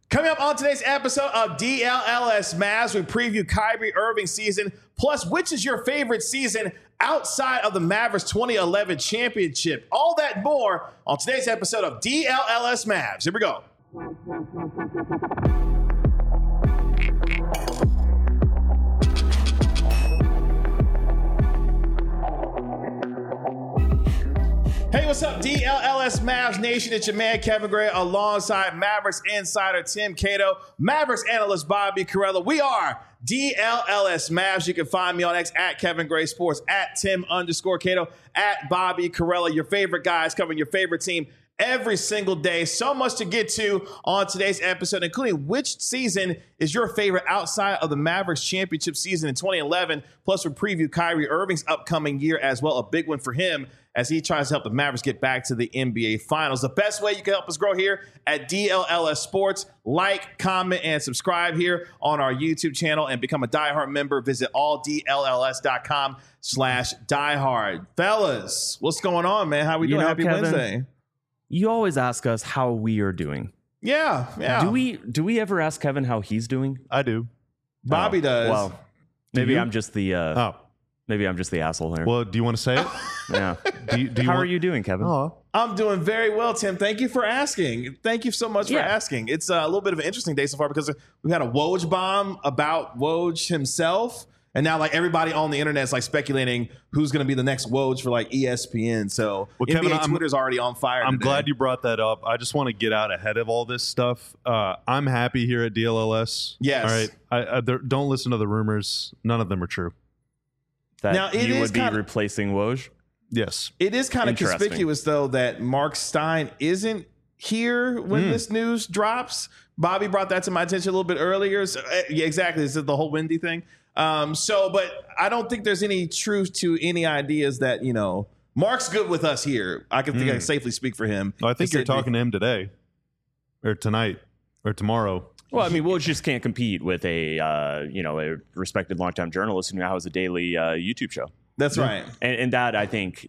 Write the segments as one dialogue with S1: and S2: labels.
S1: Coming up on today's episode of DLLS Mavs, we preview Kyrie Irving's season, plus which is your favorite season outside of the Mavericks 2011 championship. All that and more on today's episode of DLLS Mavs. Here we go. Hey, what's up, DLLS Mavs Nation? It's your man, Kevin Gray, alongside Mavericks insider Tim Cato, Mavericks analyst Bobby Carella. We are DLLS Mavs. You can find me on X at Kevin Gray Sports, at Tim_Cato, at Bobby Carella. Your favorite guys covering your favorite team every single day. So much to get to on today's episode, including which season is your favorite outside of the Mavericks championship season in 2011. Plus, we preview Kyrie Irving's upcoming year as well, a big one for him as he tries to help the Mavericks get back to the NBA Finals. The best way you can help us grow here at DLLS Sports, like, comment, and subscribe here on our YouTube channel and become a diehard member. Visit alldlls.com/diehard. Fellas, what's going on, man? How we doing? Happy
S2: Kevin,
S1: Wednesday.
S2: You always ask us how we are doing.
S1: Yeah.
S2: Do we ever ask Kevin how he's doing?
S3: I do.
S1: Bobby does.
S2: Well, maybe
S3: you?
S2: I'm just the maybe I'm just the asshole here.
S3: Well, do you want to say it?
S2: Yeah.
S3: Do you
S2: How are you doing, Kevin?
S3: Oh,
S1: I'm doing very well, Tim. Thank you for asking. Thank you so much for asking. It's a little bit of an interesting day so far because we had a Woj bomb about Woj himself. And now, like, everybody on the internet is like speculating who's going to be the next Woj for like ESPN. So NBA Twitter's already on fire.
S3: I'm
S1: today.
S3: glad you brought that up. I just want to get out ahead of all this stuff. I'm happy here at DLLS.
S1: Yes.
S3: All right. Don't listen to the rumors. None of them are true.
S2: That
S1: Now, it
S2: you
S1: is
S2: would be
S1: kinda-
S2: replacing Woj?
S3: Yes.
S1: It is kind of
S2: Interesting.
S1: conspicuous, though, that Mark Stein isn't here when this news drops. Bobby brought that to my attention a little bit earlier. So, yeah, exactly. This is the whole Wendy thing. But I don't think there's any truth to any ideas that, Mark's good with us here. I think I can safely speak for him.
S3: I think you're talking to him today or tonight or tomorrow.
S2: Well, I mean, Woj just can't compete with a respected longtime journalist who now has a daily YouTube show.
S1: That's right.
S2: And that, I think,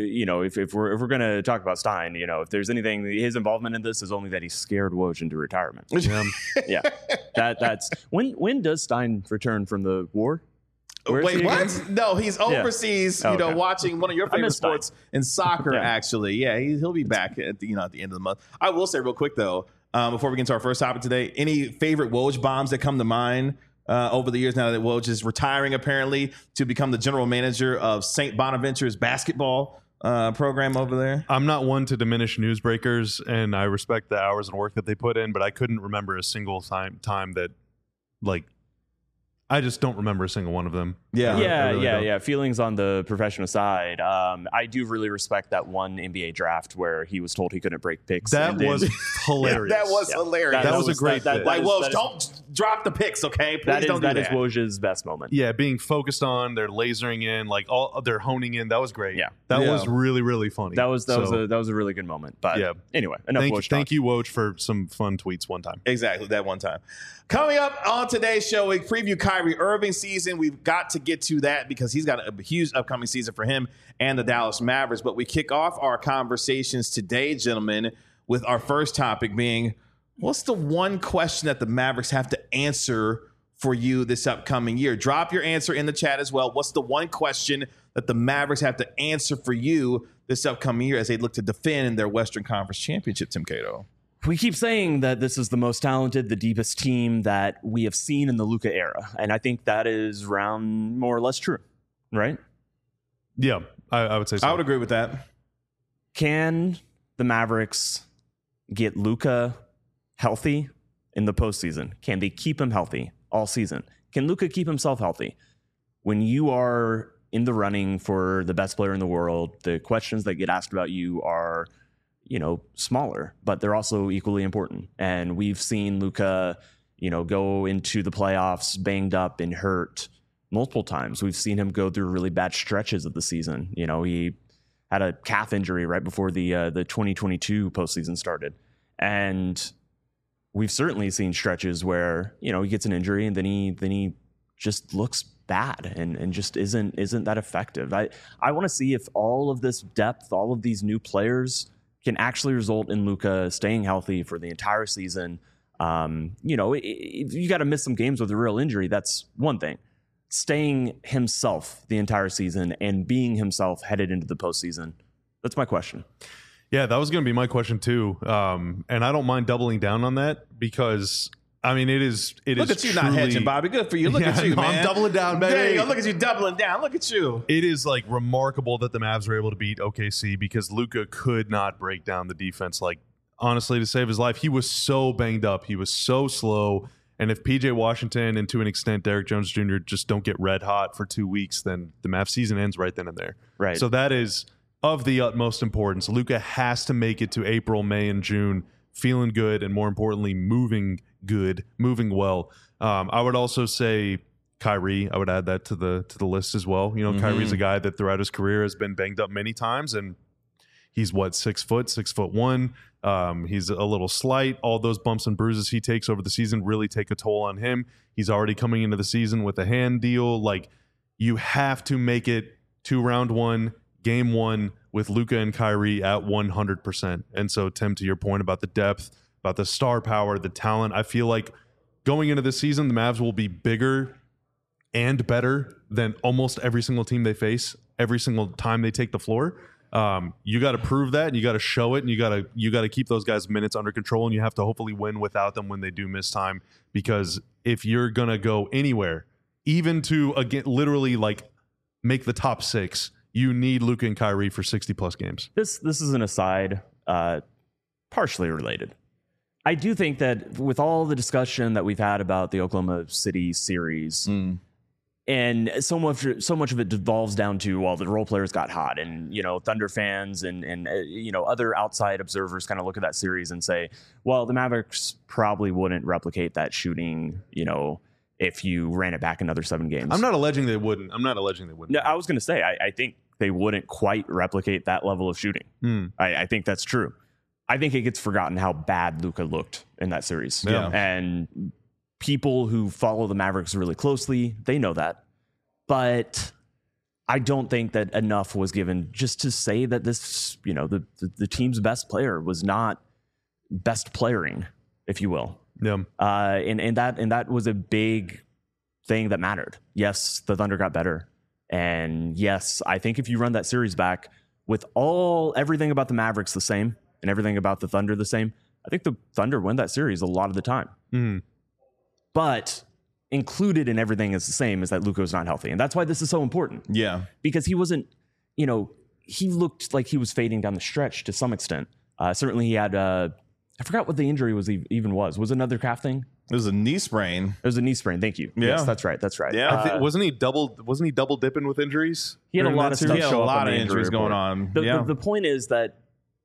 S2: if we're going to talk about Stein, if there's anything, his involvement in this is only that he scared Woj into retirement. Yeah. That's when does Stein return from the war? Where is
S1: Wait,
S2: he
S1: what?
S2: again?
S1: No, he's overseas,
S2: Okay.
S1: watching one of your
S2: I
S1: favorite
S2: miss Stein.
S1: sports in soccer,
S2: Yeah.
S1: actually. Yeah, he'll be back at the end of the month. I will say real quick, though, before we get into our first topic today, any favorite Woj bombs that come to mind over the years now that Woj is retiring, apparently, to become the general manager of St. Bonaventure's basketball program over there?
S3: I'm not one to diminish newsbreakers, and I respect the hours and work that they put in, but I couldn't remember a single time that, like, I just don't remember a single one of them.
S1: Yeah.
S3: I really don't.
S2: Feelings on the professional side. I do really respect that one NBA draft where he was told he couldn't break picks.
S3: That was hilarious.
S1: That was hilarious.
S3: That was a great bit.
S1: Like,
S2: that
S1: Woj,
S2: is-
S1: don't drop the picks, okay? Please
S2: that is
S1: don't do
S2: that
S1: that.
S2: is Woj's best moment.
S3: Yeah, being focused on, they're lasering in, like they're honing in. That was great.
S2: Yeah.
S3: That
S1: Yeah.
S3: was really, really funny.
S2: That was a really good moment. But
S3: Yeah.
S2: anyway, enough Woj talk.
S3: Thank you, Woj, for some fun tweets one time.
S1: Exactly, that one time. Coming up on today's show, we preview Kyrie Irving's season. We've got to get to that because he's got a huge upcoming season for him and the Dallas Mavericks. But we kick off our conversations today, gentlemen, with our first topic being, what's the one question that the Mavericks have to answer for you this upcoming year? Drop your answer in the chat as well. What's the one question that the Mavericks have to answer for you this upcoming year as they look to defend their Western Conference championship, Tim Cato?
S2: We keep saying that this is the most talented, the deepest team that we have seen in the Luka era. And I think that is around more or less true, right?
S3: Yeah, I would say so.
S1: I would agree with that.
S2: Can the Mavericks get Luka healthy in the postseason? Can they keep him healthy all season? Can Luka keep himself healthy? When you are in the running for the best player in the world, the questions that get asked about you are, smaller, but they're also equally important. And we've seen Luka, go into the playoffs banged up and hurt multiple times. We've seen him go through really bad stretches of the season. He had a calf injury right before the 2022 postseason started. And we've certainly seen stretches where, he gets an injury and then he just looks bad and just isn't that effective. I want to see if all of this depth, all of these new players can actually result in Luka staying healthy for the entire season, You got to miss some games with a real injury. That's one thing. Staying himself the entire season and being himself headed into the postseason. That's my question.
S3: Yeah, that was going to be my question too. And I don't mind doubling down on that because I mean, it is.
S1: Look at you
S3: truly,
S1: not hedging, Bobby. Good for you. Look at you, man.
S3: I'm doubling down, baby.
S1: There you go. Look at you doubling down. Look at you.
S3: It is like remarkable that the Mavs were able to beat OKC because Luka could not break down the defense. Like, honestly, to save his life, he was so banged up. He was so slow. And if PJ Washington and to an extent Derrick Jones Jr. just don't get red hot for 2 weeks, then the Mavs season ends right then and there.
S2: Right.
S3: So that is of the utmost importance. Luka has to make it to April, May, and June feeling good and more importantly, moving well. I would also say Kyrie. I would add that to the list as well. You know, Kyrie's a guy that throughout his career has been banged up many times, and he's 6'1". He's a little slight. All those bumps and bruises he takes over the season really take a toll on him. He's already coming into the season with a hand deal. Like, you have to make it to round one, game one with Luka and Kyrie at 100%. And so, Tim, to your point about the depth, about the star power, the talent, I feel like going into this season, the Mavs will be bigger and better than almost every single team they face every single time they take the floor. You got to prove that, and you got to show it, and you got to keep those guys' minutes under control, and you have to hopefully win without them when they do miss time. Because if you're gonna go anywhere, even to again literally like make the top 6, you need Luka and Kyrie for 60+ games.
S2: This is an aside, partially related. I do think that with all the discussion that we've had about the Oklahoma City series, and so much of it devolves down to, well, the role players got hot, and Thunder fans and other outside observers kind of look at that series and say, well, the Mavericks probably wouldn't replicate that shooting, if you ran it back another 7 games.
S3: I'm not alleging they wouldn't.
S2: No, I was going to say, I think they wouldn't quite replicate that level of shooting. I think that's true. I think it gets forgotten how bad Luka looked in that series.
S3: Yeah.
S2: And people who follow the Mavericks really closely, they know that. But I don't think that enough was given just to say that this, the team's best player was not best playering, if you will.
S3: Yeah.
S2: And that was a big thing that mattered. Yes, the Thunder got better. And yes, I think if you run that series back with everything about the Mavericks the same and everything about the Thunder the same, I think the Thunder win that series a lot of the time. But included in everything is the same is that Luka was not healthy. And that's why this is so important.
S1: Yeah.
S2: Because he wasn't, he looked like he was fading down the stretch to some extent. Certainly he had, I forgot what the injury was. Was it another calf thing?
S1: It was a knee sprain.
S2: It was a knee sprain. Thank you.
S3: Yeah.
S2: Yes, that's right.
S1: Yeah.
S3: Wasn't he double dipping with injuries?
S2: He had a lot of stuff.
S1: He had a lot of injuries going on.
S2: The point is that,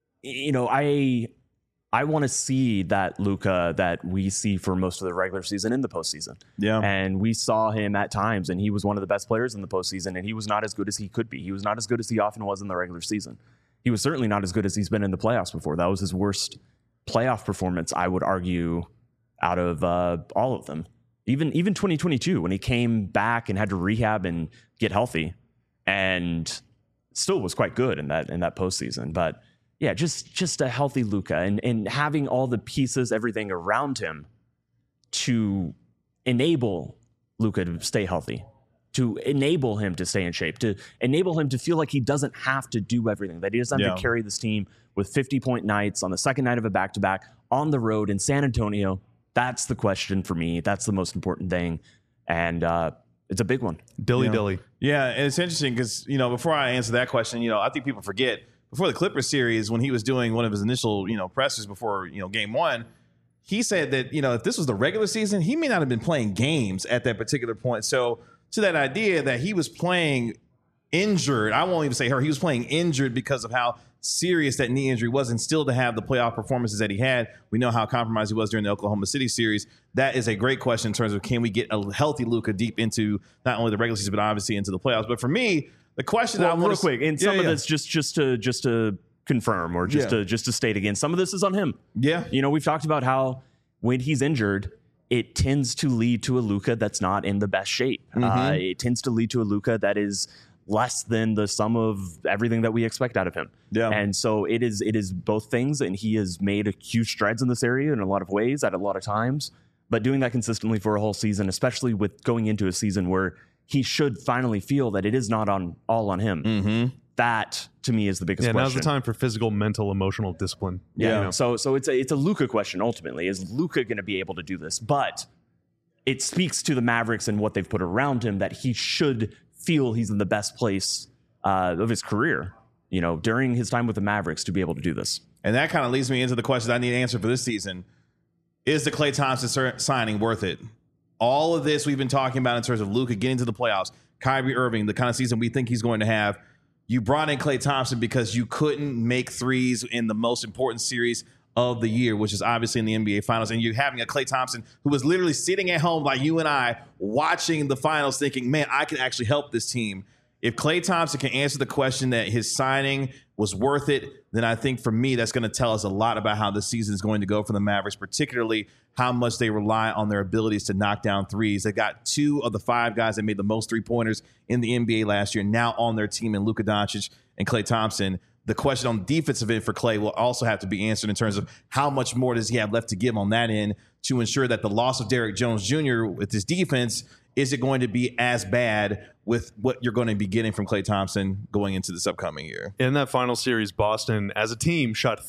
S2: I want to see that Luka that we see for most of the regular season in the postseason.
S1: Yeah.
S2: And we saw him at times, and he was one of the best players in the postseason, and he was not as good as he could be. He was not as good as he often was in the regular season. He was certainly not as good as he's been in the playoffs before. That was his worst playoff performance, I would argue, out of all of them. Even 2022, when he came back and had to rehab and get healthy, and still was quite good in that postseason. But yeah, just a healthy Luka and having all the pieces, everything around him to enable Luka to stay healthy, to enable him to stay in shape, to enable him to feel like he doesn't have to do everything, that he doesn't have to carry this team with 50-point nights on the second night of a back-to-back on the road in San Antonio. That's the question for me. That's the most important thing. And it's a big one.
S3: Dilly.
S1: Yeah, and it's interesting because, before I answer that question, I think people forget, before the Clippers series, when he was doing one of his initial, pressers before, game one, he said that, if this was the regular season, he may not have been playing games at that particular point. So to that idea that he was playing injured, I won't even say he was playing injured because of how serious that knee injury was, and still to have the playoff performances that he had. We know how compromised he was during the Oklahoma City series. That is a great question in terms of, can we get a healthy Luka deep into not only the regular season, but obviously into the playoffs. But for me, the question that I want
S2: real quick, and some of this just to confirm or just to state again, some of this is on him.
S1: Yeah.
S2: We've talked about how when he's injured, it tends to lead to a Luka that's not in the best shape. It tends to lead to a Luka that is less than the sum of everything that we expect out of him.
S1: Yeah.
S2: And so it is both things, and he has made a huge strides in this area in a lot of ways at a lot of times. But doing that consistently for a whole season, especially with going into a season where he should finally feel that it is not all on him. That to me is the biggest question.
S3: Now's the time for physical, mental, emotional discipline.
S2: Yeah. So it's a Luka question ultimately. Is Luka going to be able to do this? But it speaks to the Mavericks and what they've put around him that he should feel he's in the best place of his career, during his time with the Mavericks to be able to do this.
S1: And that kind of leads me into the question I need to answer for this season. Is the Klay Thompson signing worth it? All of this we've been talking about in terms of Luka getting to the playoffs, Kyrie Irving, the kind of season we think he's going to have. You brought in Klay Thompson because you couldn't make threes in the most important series of the year, which is obviously in the NBA Finals. And you're having a Klay Thompson who was literally sitting at home like you and I watching the finals thinking, man, I can actually help this team. If Klay Thompson can answer the question that his signing was worth it, then I think for me, that's going to tell us a lot about how the season is going to go for the Mavericks, particularly how much they rely on their abilities to knock down threes. They got 2 of the 5 guys that made the most 3-pointers in the NBA last year now on their team in Luka Doncic and Klay Thompson. The question on the defensive end for Klay will also have to be answered in terms of how much more does he have left to give on that end to ensure that the loss of Derrick Jones Jr. with his defense, is it going to be as bad with what you're going to be getting from Klay Thompson going into this upcoming year?
S3: In that final series, Boston, as a team, shot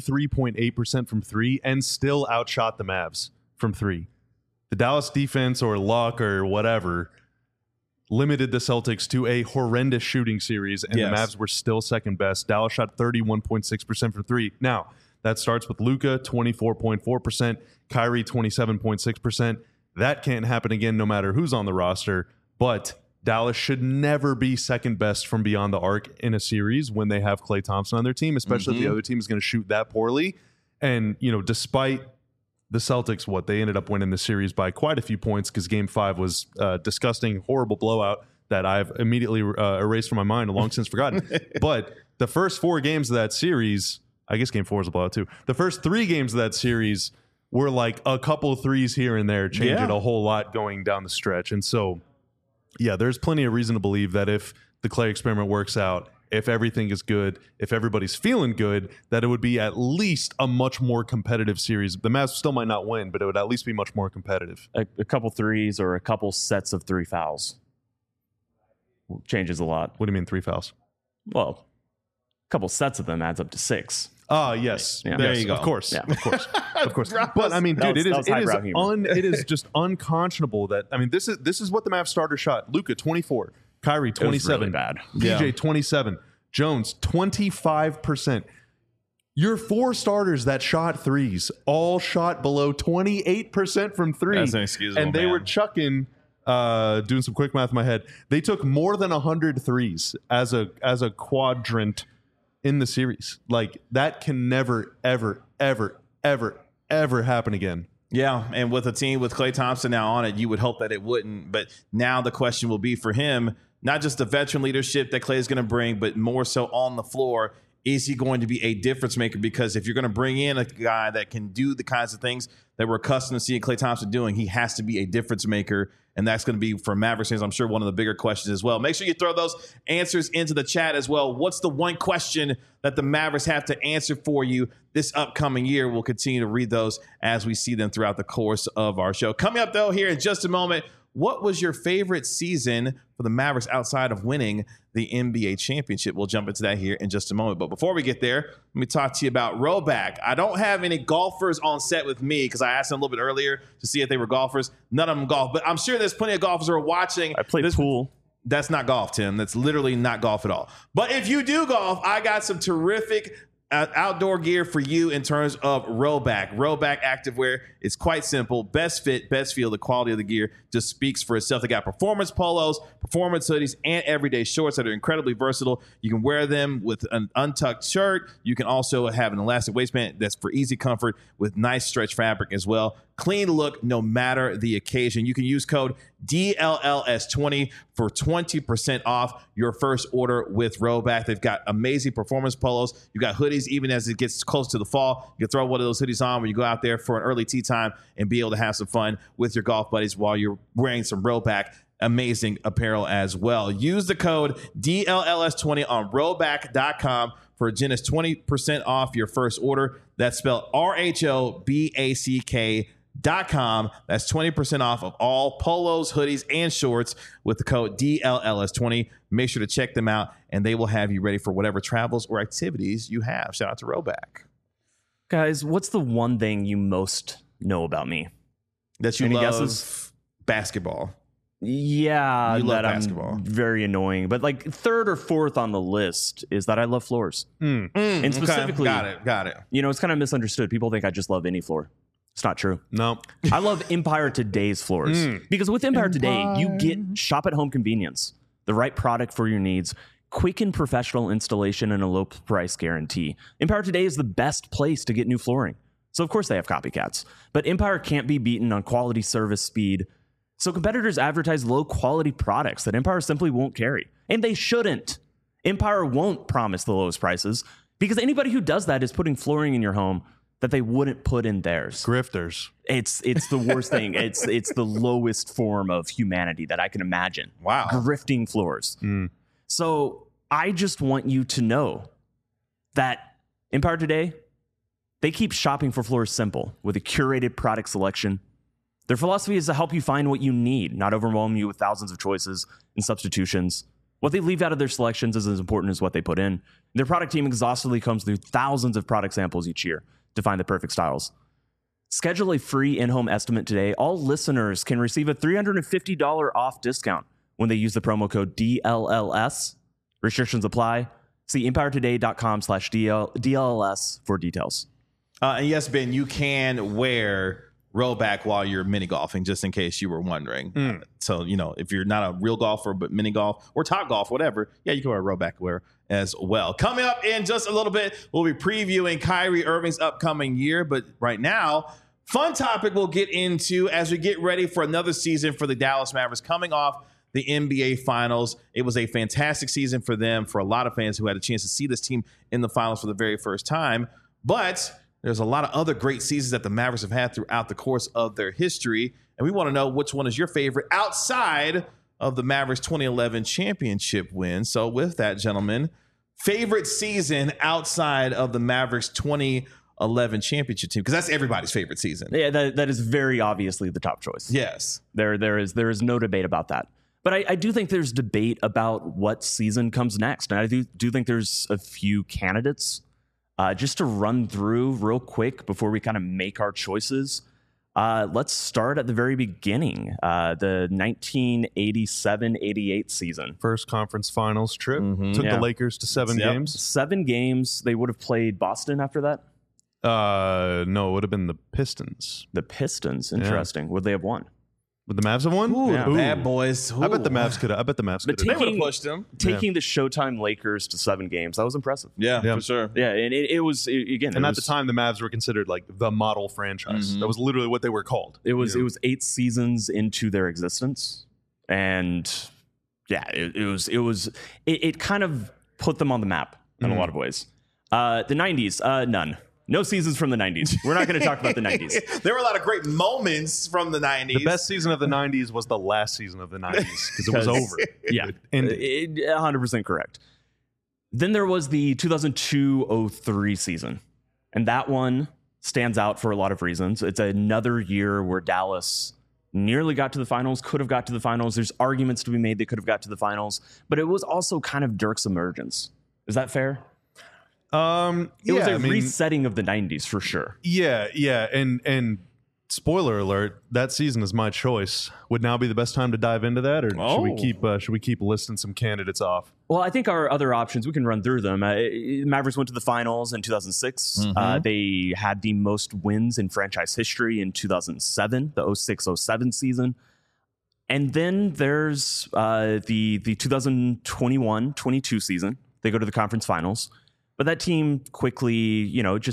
S3: 33.8% from 3 and still outshot the Mavs from 3. The Dallas defense or luck or whatever limited the Celtics to a horrendous shooting series, and the Mavs were still second best. Dallas shot 31.6% from 3. Now, that starts with Luka, 24.4%, Kyrie, 27.6%. That can't happen again no matter who's on the roster, but Dallas should never be second best from beyond the arc in a series when they have Klay Thompson on their team, especially if the other team is going to shoot that poorly. And, despite the Celtics, they ended up winning the series by quite a few points because Game 5 was a disgusting, horrible blowout that I've immediately erased from my mind and long since forgotten. But the first 4 games of that series, I guess Game 4 is a blowout too. The first 3 games of that series were like a couple of threes here and there, changing a whole lot going down the stretch. And so, there's plenty of reason to believe that if the Klay experiment works out, if everything is good, if everybody's feeling good, that it would be at least a much more competitive series. The Mavs still might not win, but it would at least be much more competitive.
S2: A couple threes or a couple sets of 3 fouls changes a lot.
S3: What do you mean 3 fouls?
S2: Well, a couple sets of them adds up to 6.
S3: Yes.
S2: Yeah.
S3: There
S1: you go.
S3: Of course. Yeah. Of course. Of course. But I mean, dude, it is just unconscionable that, I mean, this is what the Mavs starter shot. Luka, 24. Kyrie, 27.
S2: Really bad.
S3: PJ, 27. Jones, 25%. Your 4 starters that shot threes all shot below 28% from 3.
S1: That's inexcusable,
S3: and they were chucking, doing some quick math in my head, they took more than 100 threes as a quadrant in the series. Like, that can never, ever, ever, ever, ever happen again.
S1: Yeah, and with a team with Klay Thompson now on it, you would hope that it wouldn't. But now the question will be for him, not just the veteran leadership that Klay is going to bring, but more so on the floor. Is he going to be a difference maker? Because if you're going to bring in a guy that can do the kinds of things that we're accustomed to seeing Klay Thompson doing, he has to be a difference maker. And that's going to be, for Mavericks fans, I'm sure, one of the bigger questions as well. Make sure you throw those answers into the chat as well. What's the one question that the Mavericks have to answer for you this upcoming year? We'll continue to read those as we see them throughout the course of our show. Coming up, though, here in just a moment, what was your favorite season for the Mavericks outside of winning the NBA championship? We'll jump into that here in just a moment. But before we get there, let me talk to you about Rhoback. I don't have any golfers on set with me because I asked them a little bit earlier to see if they were golfers. None of them golf, but I'm sure there's plenty of golfers who are watching.
S2: I play pool.
S1: That's not golf, Tim. That's literally not golf at all. But if you do golf, I got some terrific outdoor gear for you in terms of Rhoback. Rhoback activewear is quite simple. Best fit, best feel. The quality of the gear just speaks for itself. They got performance polos, performance hoodies, and everyday shorts that are incredibly versatile. You can wear them with an untucked shirt. You can also have an elastic waistband that's for easy comfort with nice stretch fabric as well. Clean look no matter the occasion. You can use code DLLS20 for 20% off your first order with Rhoback. They've got amazing performance polos. You got hoodies even as it gets close to the fall. You can throw one of those hoodies on when you go out there for an early tee time and be able to have some fun with your golf buddies while you're wearing some Rhoback amazing apparel as well. Use the code DLLS20 on Rhoback.com for Genesis 20% off your first order. That's spelled RHOBACK.com. That's 20% off of all polos, hoodies, and shorts with the code DLLS20. Make sure to check them out, and they will have you ready for whatever travels or activities you have. Shout out to Rhoback.
S2: Guys, what's the one thing you most know about me?
S1: That you
S2: Any
S1: love
S2: guesses?
S1: Basketball.
S2: Yeah,
S1: You love
S2: that
S1: basketball.
S2: I'm very annoying. But like third or fourth on the list is that I love floors. And specifically,
S1: Got it.
S2: you know, it's kind of misunderstood. People think I just love any floor. It's not true.
S3: No.
S2: I love Empire Today's floors because with Empire Today, you get shop at home convenience, the right product for your needs, quick and professional installation, and a low price guarantee. Empire Today is the best place to get new flooring. So of course they have copycats, but Empire can't be beaten on quality, service, speed. So competitors advertise low quality products that Empire simply won't carry, and they shouldn't. Empire won't promise the lowest prices because anybody who does that is putting flooring in your home that they wouldn't put in theirs.
S3: Grifters.
S2: It's the worst thing. It's the lowest form of humanity that I can imagine.
S1: Wow.
S2: Grifting floors. So I just want you to know that Empire Today, they keep shopping for floors simple with a curated product selection. Their philosophy is to help you find what you need, not overwhelm you with thousands of choices and substitutions. What they leave out of their selections is as important as what they put in. Their product team exhaustively combs through thousands of product samples each year to find the perfect styles. Schedule a free in-home estimate today. All listeners can receive a $350 off discount when they use the promo code DLLS. Restrictions apply. See empiretoday.com/DLLS for details.
S1: And yes, Ben, you can wear Rhoback while you're mini golfing, just in case you were wondering. So, you know, if you're not a real golfer, but mini golf or top golf, whatever, yeah, you can wear Rhoback wear as well. Coming up in just a little bit, we'll be previewing Kyrie Irving's upcoming year. But right now, fun topic we'll get into as we get ready for another season for the Dallas Mavericks coming off the NBA Finals. It was a fantastic season for them, for a lot of fans who had a chance to see this team in the finals for the very first time. But there's a lot of other great seasons that the Mavericks have had throughout the course of their history. And we want to know which one is your favorite outside of the Mavericks 2011 championship win. So with that, gentlemen, favorite season outside of the Mavericks 2011 championship team, because that's everybody's favorite season.
S2: Yeah, that is very obviously the top choice.
S1: Yes.
S2: There is no debate about that. But I do think there's debate about what season comes next. And I do think there's a few candidates. Just to run through real quick before we kind of make our choices. Let's start at the very beginning. The 1987-88 season.
S3: First conference finals trip. Took
S2: Yeah.
S3: the Lakers to 7 games.
S2: 7 games. They would have played Boston after that.
S3: No, it would have been the Pistons.
S2: The Pistons. Interesting. Would they have won?
S3: Would the Mavs have won?
S1: Ooh,
S2: Yeah.
S1: the bad boys.
S3: I bet the
S1: Ooh.
S3: Mavs could have.
S2: But
S1: They would have
S2: taking-
S1: pushed them.
S2: Taking the Showtime Lakers to 7 games, that was impressive.
S1: Yeah,
S3: Yeah.
S1: for sure.
S2: Yeah, and it was, again,
S3: And
S2: it
S3: at
S2: was,
S3: the time, the Mavs were considered like the model franchise. That was literally what they were called.
S2: it was 8 seasons into their existence. And yeah, it kind of put them on the map in a lot of ways. The 90s, none. No seasons from the 90s. We're not going to talk about the 90s.
S1: There were a lot of great moments from the 90s.
S3: The best season of the 90s was the last season of the 90s because it was over.
S2: Yeah,
S3: It ended.
S2: 100% correct. Then there was the 2002-03 season, and that one stands out for a lot of reasons. It's another year where Dallas nearly got to the finals, could have got to the finals. There's arguments to be made they could have got to the finals, but it was also kind of Dirk's emergence. Is that fair? It was a resetting of the 90s for sure.
S3: Yeah, and spoiler alert, that season is my choice. Would now be the best time to dive into that, or should we keep listing some candidates off?
S2: Well, I think our other options, we can run through them. Mavericks went to the finals in 2006. They had the most wins in franchise history in 2007, the 06-07 season. And then there's the 2021-22 season. They go to the conference finals. But that team quickly,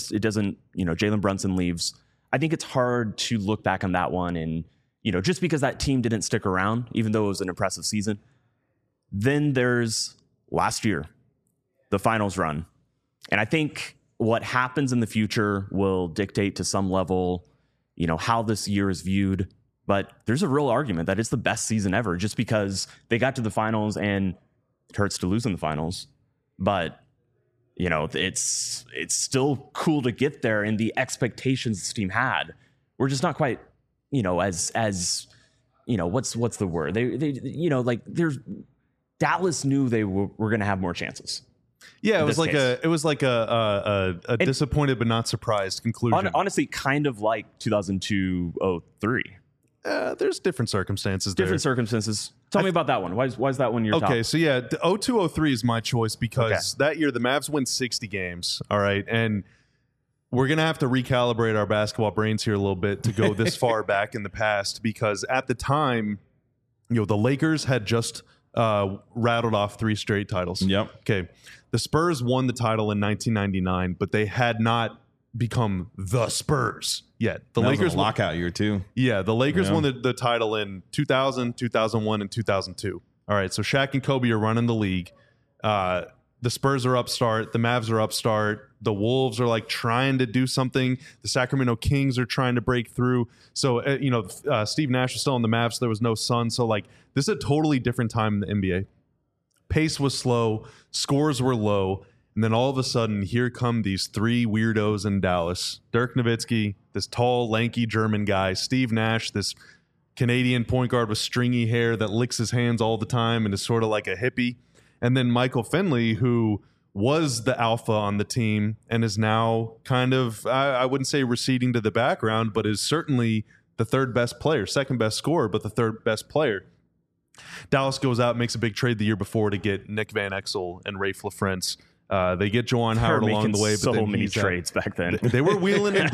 S2: Jalen Brunson leaves. I think it's hard to look back on that one and, just because that team didn't stick around, even though it was an impressive season. Then there's last year, the finals run. And I think what happens in the future will dictate to some level, how this year is viewed. But there's a real argument that it's the best season ever just because they got to the finals, and it hurts to lose in the finals. But, you know, it's still cool to get there, and the expectations this team had were just not quite, you know, as you know, what's the word? They you know, like Dallas knew they were going to have more chances.
S3: Yeah, it was like a disappointed but not surprised conclusion.
S2: Honestly, kind of like 2002-03.
S3: There's different circumstances there.
S2: Different circumstances. Tell me about that one. Why is that one your top?
S3: Okay, so yeah, the 02-03 is my choice because that year the Mavs win 60 games, all right? And we're going to have to recalibrate our basketball brains here a little bit to go this far back in the past because at the time, you know, the Lakers had just rattled off 3 straight titles.
S1: Yep.
S3: Okay. The Spurs won the title in 1999, but they had not become the Spurs yet. The Lakers
S1: was a lockout year too.
S3: Yeah, the Lakers won the title in 2000, 2001, and 2002. All right, so Shaq and Kobe are running the league. The Spurs are upstart. The Mavs are upstart. The Wolves are like trying to do something. The Sacramento Kings are trying to break through. So, Steve Nash was still on the Mavs. So there was no Sun. So, like, this is a totally different time in the NBA. Pace was slow. Scores were low. And then all of a sudden, here come these 3 weirdos in Dallas. Dirk Nowitzki, this tall, lanky German guy. Steve Nash, this Canadian point guard with stringy hair that licks his hands all the time and is sort of like a hippie. And then Michael Finley, who was the alpha on the team and is now kind of, I wouldn't say receding to the background, but is certainly the third best player, second best scorer, but the third best player. Dallas goes out, makes a big trade the year before to get Nick Van Exel and Rafe LaFrentz. They get Juwan Howard along the way. But
S2: so many trades back then.
S3: They were wheeling and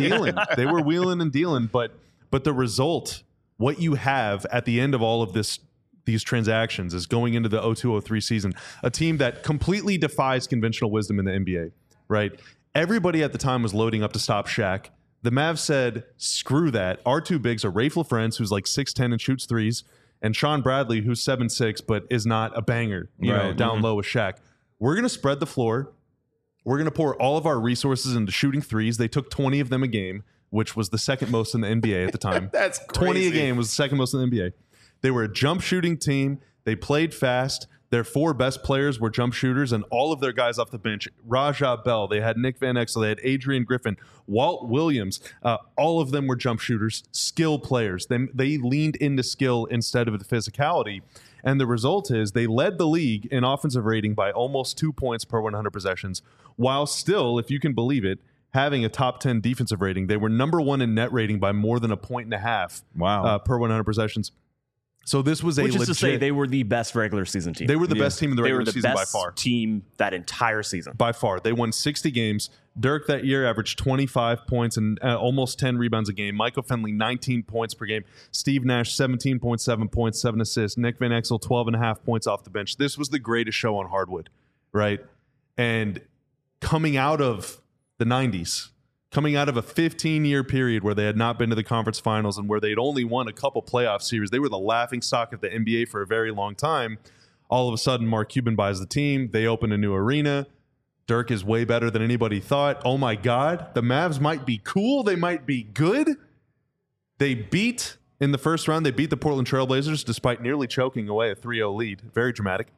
S3: dealing. But the result, what you have at the end of all of these transactions is going into the 02-03 season, a team that completely defies conventional wisdom in the NBA, right? Everybody at the time was loading up to stop Shaq. The Mavs said, screw that. Our 2 bigs are Rafe LaFrentz, who's like 6'10 and shoots threes, and Sean Bradley, who's 7'6", but is not a banger, down low with Shaq. We're going to spread the floor. We're going to pour all of our resources into shooting threes. They took 20 of them a game, which was the second most in the NBA at the time.
S1: That's crazy.
S3: 20 a game was the second most in the NBA. They were a jump shooting team. They played fast. Their 4 best players were jump shooters, and all of their guys off the bench, Rajah Bell, they had Nick Van Exel, they had Adrian Griffin, Walt Williams, all of them were jump shooters, skill players. They leaned into skill instead of the physicality, and the result is they led the league in offensive rating by almost 2 points per 100 possessions, while still, if you can believe it, having a top 10 defensive rating. They were number 1 in net rating by more than 1.5 points per 100 possessions. So this was
S2: Which is to say they were the best regular season team.
S3: They were the best team in the regular season by far.
S2: They were the best team that entire season.
S3: By far. They won 60 games. Dirk that year averaged 25 points and almost 10 rebounds a game. Michael Finley, 19 points per game. Steve Nash, 17.7 points, 7 assists. Nick Van Exel, 12.5 points off the bench. This was the greatest show on hardwood, right? And coming out of the 90s, coming out of a 15-year period where they had not been to the conference finals and where they'd only won a couple playoff series. They were the laughingstock of the NBA for a very long time. All of a sudden, Mark Cuban buys the team. They open a new arena. Dirk is way better than anybody thought. Oh, my God. The Mavs might be cool. They might be good. They beat, in the first round, they beat the Portland Trailblazers despite nearly choking away a 3-0 lead. Very dramatic.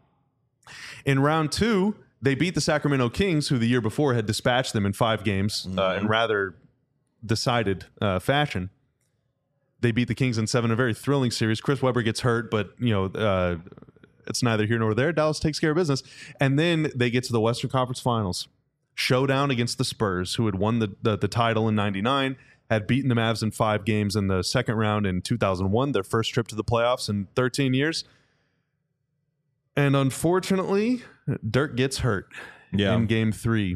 S3: In round 2, they beat the Sacramento Kings, who the year before had dispatched them in 5 games in rather decided fashion. They beat the Kings in 7, a very thrilling series. Chris Webber gets hurt, but it's neither here nor there. Dallas takes care of business. And then they get to the Western Conference Finals. Showdown against the Spurs, who had won the title in 99, had beaten the Mavs in 5 games in the second round in 2001, their first trip to the playoffs in 13 years. And unfortunately, Dirk gets hurt in game 3.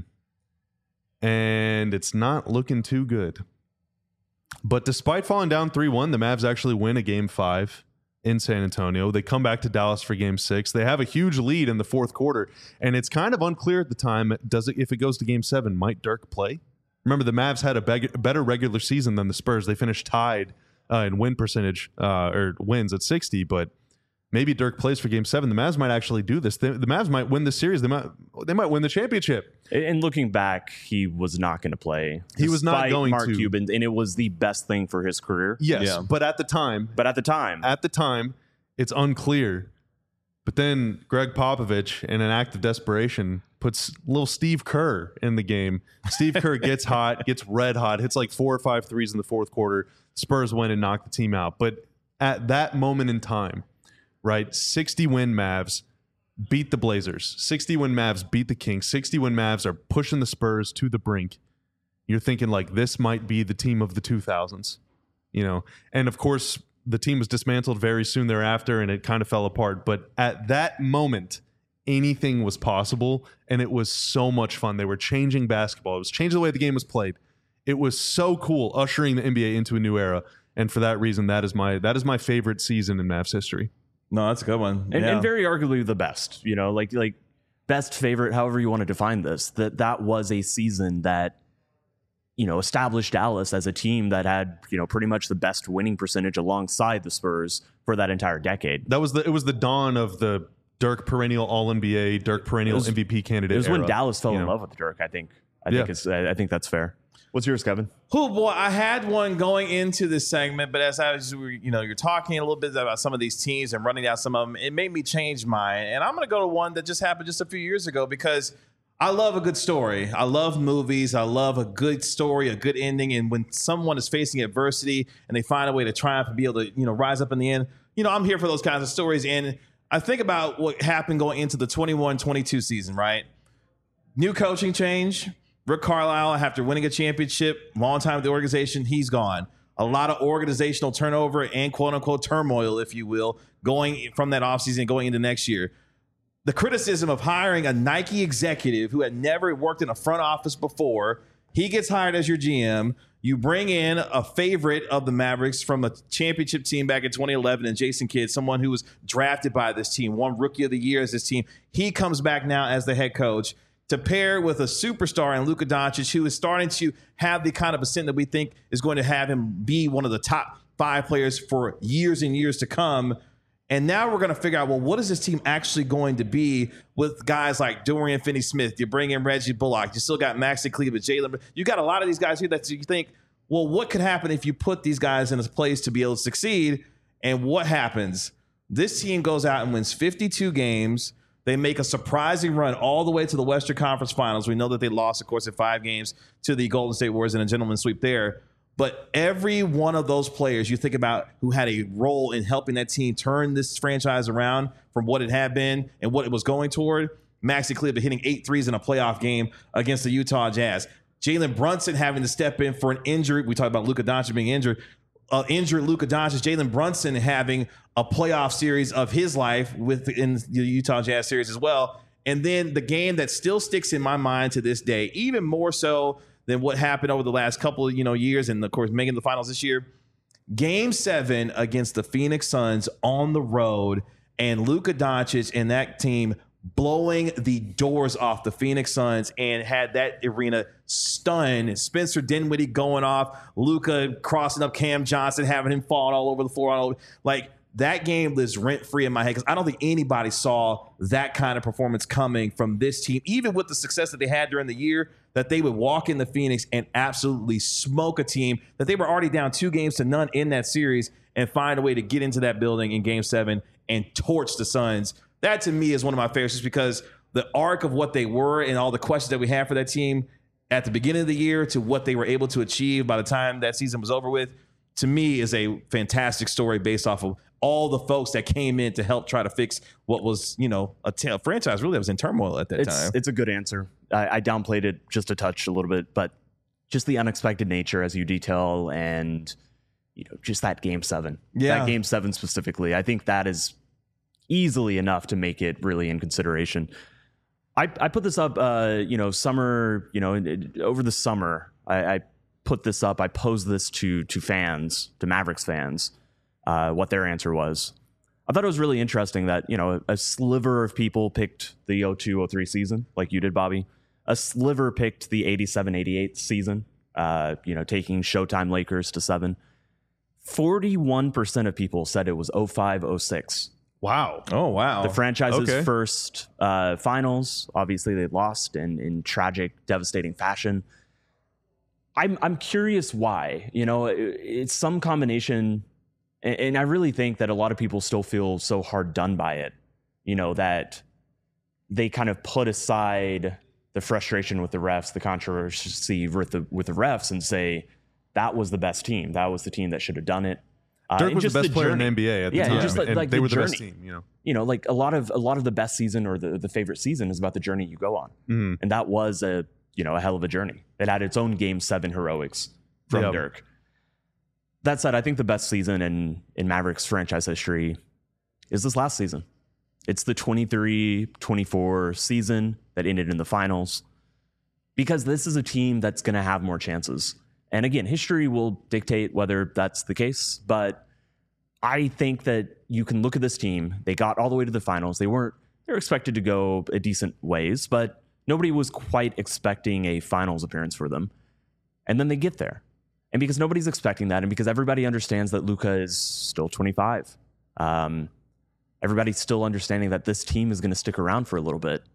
S3: And it's not looking too good. But despite falling down 3-1, the Mavs actually win a game 5 in San Antonio. They come back to Dallas for game 6. They have a huge lead in the fourth quarter. And it's kind of unclear at the time, if it goes to game 7, might Dirk play? Remember, the Mavs had a better regular season than the Spurs. They finished tied in win percentage, or wins at 60, but maybe Dirk plays for Game 7. The Mavs might actually do this. The Mavs might win the series. They might win the championship.
S2: And looking back, he was not going to play.
S3: He was not going
S2: Mark
S3: to.
S2: Cuban, and it was the best thing for his career.
S3: Yes,
S1: Yeah.
S3: but at the time, it's unclear. But then Greg Popovich, in an act of desperation, puts little Steve Kerr in the game. Steve Kerr gets hot, gets red hot, hits like 4 or 5 threes in the fourth quarter. Spurs win and knock the team out. But at that moment in time, right, 60-win Mavs beat the Blazers. 60-win Mavs beat the Kings. 60-win Mavs are pushing the Spurs to the brink. You're thinking, like, this might be the team of the 2000s, you know? And, of course, the team was dismantled very soon thereafter, and it kind of fell apart. But at that moment, anything was possible, and it was so much fun. They were changing basketball. It was changing the way the game was played. It was so cool, ushering the NBA into a new era. And for that reason, that is my favorite season in Mavs history.
S1: No, that's a good one.
S2: And very arguably the best, you know, like best, favorite, however you want to define this, that was a season that, you know, established Dallas as a team that had, you know, pretty much the best winning percentage alongside the Spurs for that entire decade.
S3: It was the dawn of the Dirk perennial All-NBA, Dirk perennial MVP candidate.
S2: It was
S3: era,
S2: when Dallas fell in
S3: know?
S2: love with Dirk, I think. I think that's fair. What's yours, Kevin?
S1: Oh boy, I had one going into this segment, but as I was, you're talking a little bit about some of these teams and running down some of them, it made me change mine. And I'm going to go to one that just happened just a few years ago because I love a good story. I love movies. I love a good story, a good ending. And when someone is facing adversity and they find a way to triumph and be able to, rise up in the end, I'm here for those kinds of stories. And I think about what happened going into the 21-22 season, right? New coaching change. Rick Carlisle, after winning a championship, long time with the organization, he's gone. A lot of organizational turnover and quote-unquote turmoil, if you will, going from that offseason going into next year. The criticism of hiring a Nike executive who had never worked in a front office before, he gets hired as your GM. You bring in a favorite of the Mavericks from a championship team back in 2011 and Jason Kidd, someone who was drafted by this team, won Rookie of the Year as this team. He comes back now as the head coach to pair with a superstar in Luka Doncic, who is starting to have the kind of ascent that we think is going to have him be one of the top 5 players for years and years to come. And now we're going to figure out, well, what is this team actually going to be with guys like Dorian Finney-Smith? You bring in Reggie Bullock. You still got Maxi Kleber, Jalen. You got a lot of these guys here that you think, well, what could happen if you put these guys in a place to be able to succeed? And what happens? This team goes out and wins 52 games. They make a surprising run all the way to the Western Conference Finals. We know that they lost, of course, in 5 games to the Golden State Warriors in a gentleman's sweep there. But every one of those players you think about who had a role in helping that team turn this franchise around from what it had been and what it was going toward, Maxi Kleber hitting 8 threes in a playoff game against the Utah Jazz. Jalen Brunson having to step in for an injury. We talked about Luka Doncic being injured. Injured Luka Doncic, Jalen Brunson having a playoff series of his life within the Utah Jazz series as well. And then the game that still sticks in my mind to this day, even more so than what happened over the last couple of years, and of course making the finals this year, Game 7 against the Phoenix Suns on the road, and Luka Doncic and that team blowing the doors off the Phoenix Suns and had that arena stunned. Spencer Dinwiddie going off, Luka crossing up Cam Johnson, having him falling all over the floor. Like, that game lives rent-free in my head because I don't think anybody saw that kind of performance coming from this team, even with the success that they had during the year, that they would walk into Phoenix and absolutely smoke a team that they were already down 2-0 in that series and find a way to get into that building in Game 7 and torch the Suns. That, to me, is one of my favorites just because the arc of what they were and all the questions that we had for that team at the beginning of the year to what they were able to achieve by the time that season was over with, to me, is a fantastic story based off of all the folks that came in to help try to fix what was, a franchise really that was in turmoil at that time.
S2: It's a good answer. I downplayed it just a touch, a little bit, but just the unexpected nature as you detail and, just that Game 7.
S1: Yeah.
S2: That Game 7 specifically. I think that is easily enough to make it really in consideration. I put this up, summer, over the summer, I put this up. I posed this to fans, to Mavericks fans, what their answer was. I thought it was really interesting that, a sliver of people picked the 02-03 season, like you did, Bobby. A sliver picked the 87-88 season, taking Showtime Lakers to 7. 41% of people said it was 05-06
S3: Wow.
S1: Oh, wow.
S2: The franchise's
S3: Okay.
S2: first finals. Obviously, they lost in tragic, devastating fashion. I'm curious why. You know, it's some combination, and I really think that a lot of people still feel so hard done by it. You know, that they kind of put aside the frustration with the refs, the controversy with the refs, and say that was the best team. That was the team that should have done it.
S3: Dirk
S2: and
S3: was the
S2: just
S3: best player
S2: journey.
S3: in the NBA at the
S2: Yeah,
S3: time.
S2: and just like
S3: they
S2: the
S3: were the best
S2: journey.
S3: team,
S2: You know, like a lot of the best season or the favorite season is about the journey you go on.
S3: Mhm.
S2: And that was a hell of a journey. It had its own Game 7 heroics from
S3: Yep.
S2: Dirk. That said, I think the best season in Mavericks franchise history is this last season. It's the 23-24 season that ended in the finals, because this is a team that's going to have more chances. And again, history will dictate whether that's the case, but I think that you can look at this team. They got all the way to the finals. They were expected to go a decent ways, but nobody was quite expecting a finals appearance for them. And then they get there. And because nobody's expecting that, and because everybody understands that Luka is still 25, everybody's still understanding that this team is going to stick around for a little bit.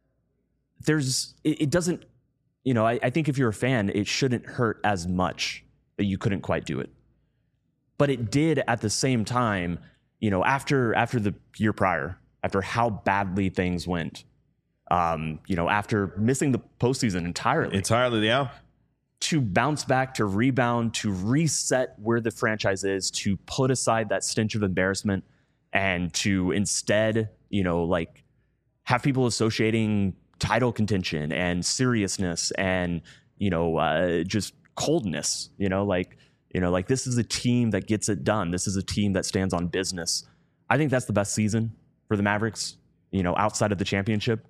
S2: It doesn't, I think if you're a fan, it shouldn't hurt as much that you couldn't quite do it. But it did at the same time, after the year prior, after how badly things went, after missing the postseason entirely,
S1: Yeah.
S2: to bounce back, to rebound, to reset where the franchise is, to put aside that stench of embarrassment, and to instead, have people associating title contention and seriousness and, just coldness, like this is a team that gets it done. This is a team that stands on business. I think that's the best season for the Mavericks, outside of the championship,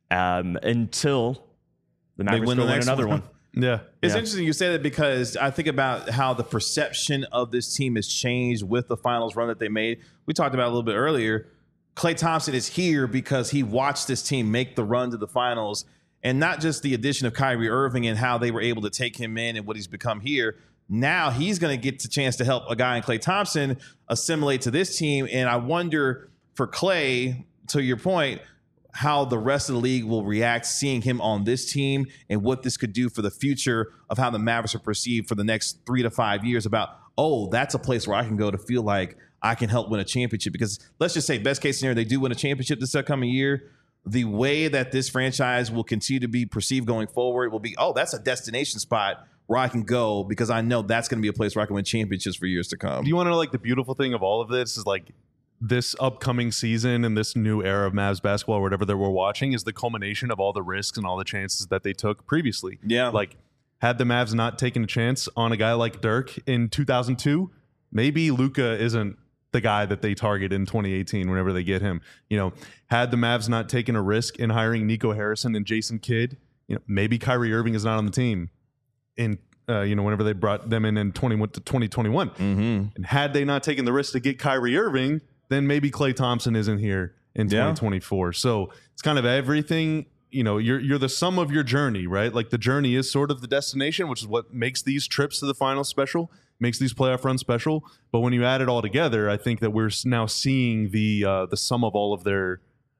S2: until the Mavericks
S1: win
S2: go
S1: the
S2: win
S1: next
S2: another
S1: one.
S2: one.
S3: Yeah.
S1: It's
S2: Yeah.
S1: interesting you say that, because I think about how the perception of this team has changed with the finals run that they made. We talked about it a little bit earlier. Klay Thompson is here because he watched this team make the run to the finals, and not just the addition of Kyrie Irving and how they were able to take him in and what he's become here. Now he's going to get the chance to help a guy in Klay Thompson assimilate to this team. And I wonder for Klay, to your point, how the rest of the league will react seeing him on this team, and what this could do for the future of how the Mavericks are perceived for the next 3 to 5 years about, oh, that's a place where I can go to feel like I can help win a championship. Because let's just say best case scenario, they do win a championship this upcoming year. The way that this franchise will continue to be perceived going forward will be, oh, that's a destination spot where I can go, because I know that's going to be a place where I can win championships for years to come.
S3: Do you want to know, like, the beautiful thing of all of this is, like, this upcoming season and this new era of Mavs basketball or whatever that we're watching is the culmination of all the risks and all the chances that they took previously.
S1: Yeah.
S3: Like, had the Mavs not taken a chance on a guy like Dirk in 2002, maybe Luka isn't the guy that they target in 2018 whenever they get him. Had the Mavs not taken a risk in hiring Nico Harrison and Jason Kidd, maybe Kyrie Irving is not on the team in whenever they brought them in 2021.
S1: Mm-hmm.
S3: And had they not taken the risk to get Kyrie Irving, then maybe Klay Thompson isn't here in 2024. So it's kind of everything. You're the sum of your journey, right? Like, the journey is sort of the destination, which is what makes these trips to the finals special, makes these playoff runs special. But when you add it all together, I think that we're now seeing the sum of all of their,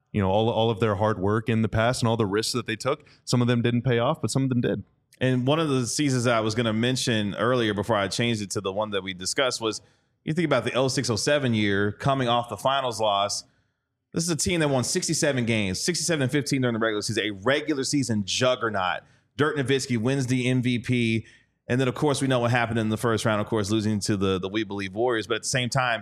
S3: all of their hard work in the past and all the risks that they took. Some of them didn't pay off, but some of them did.
S1: And one of the seasons that I was going to mention earlier before I changed it to the one that we discussed was, you think about the 06-07 year coming off the finals loss. This is a team that won 67 games, 67-15 during the regular season, a regular season juggernaut. Dirk Nowitzki wins the MVP. And then, of course, we know what happened in the first round, of course, losing to the We Believe Warriors. But at the same time,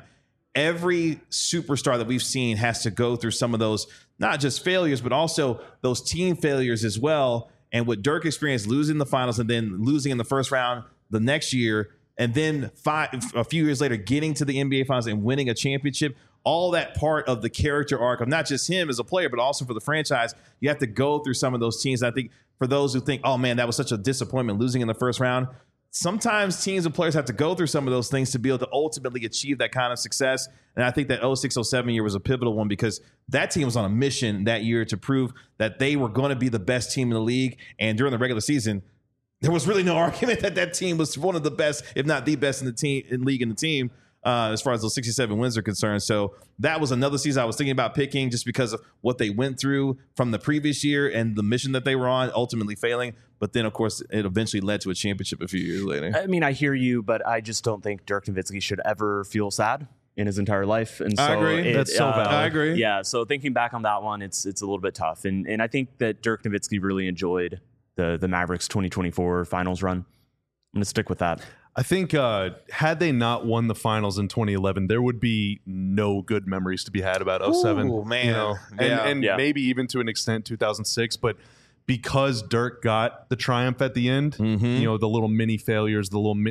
S1: every superstar that we've seen has to go through some of those, not just failures, but also those team failures as well. And what Dirk experienced, losing the finals and then losing in the first round the next year, and then a few years later getting to the NBA Finals and winning a championship, all that part of the character arc of not just him as a player, but also for the franchise. You have to go through some of those teams. And I think for those who think, oh, man, that was such a disappointment losing in the first round, sometimes teams and players have to go through some of those things to be able to ultimately achieve that kind of success. And I think that 06-07 year was a pivotal one, because that team was on a mission that year to prove that they were going to be the best team in the league. And during the regular season, there was really no argument that team was one of the best, if not the best in the team, in league in the team. as far as those 67 wins are concerned. So that was another season I was thinking about picking just because of what they went through from the previous year and the mission that they were on, ultimately failing. But then, of course, it eventually led to a championship a few years later.
S2: I mean, I hear you, but I just don't think Dirk Nowitzki should ever feel sad in his entire life. And so
S1: I agree.
S3: That's so valid.
S1: I agree.
S2: Yeah, so thinking back on that one, it's a little bit tough. And I think that Dirk Nowitzki really enjoyed the Mavericks 2024 finals run. I'm going to stick with that.
S3: I think had they not won the finals in 2011, there would be no good memories to be had about 07.
S1: Ooh, man.
S3: You know? And
S2: Yeah.
S3: maybe even to an extent 2006. But because Dirk got the triumph at the end, you know, the little mini failures,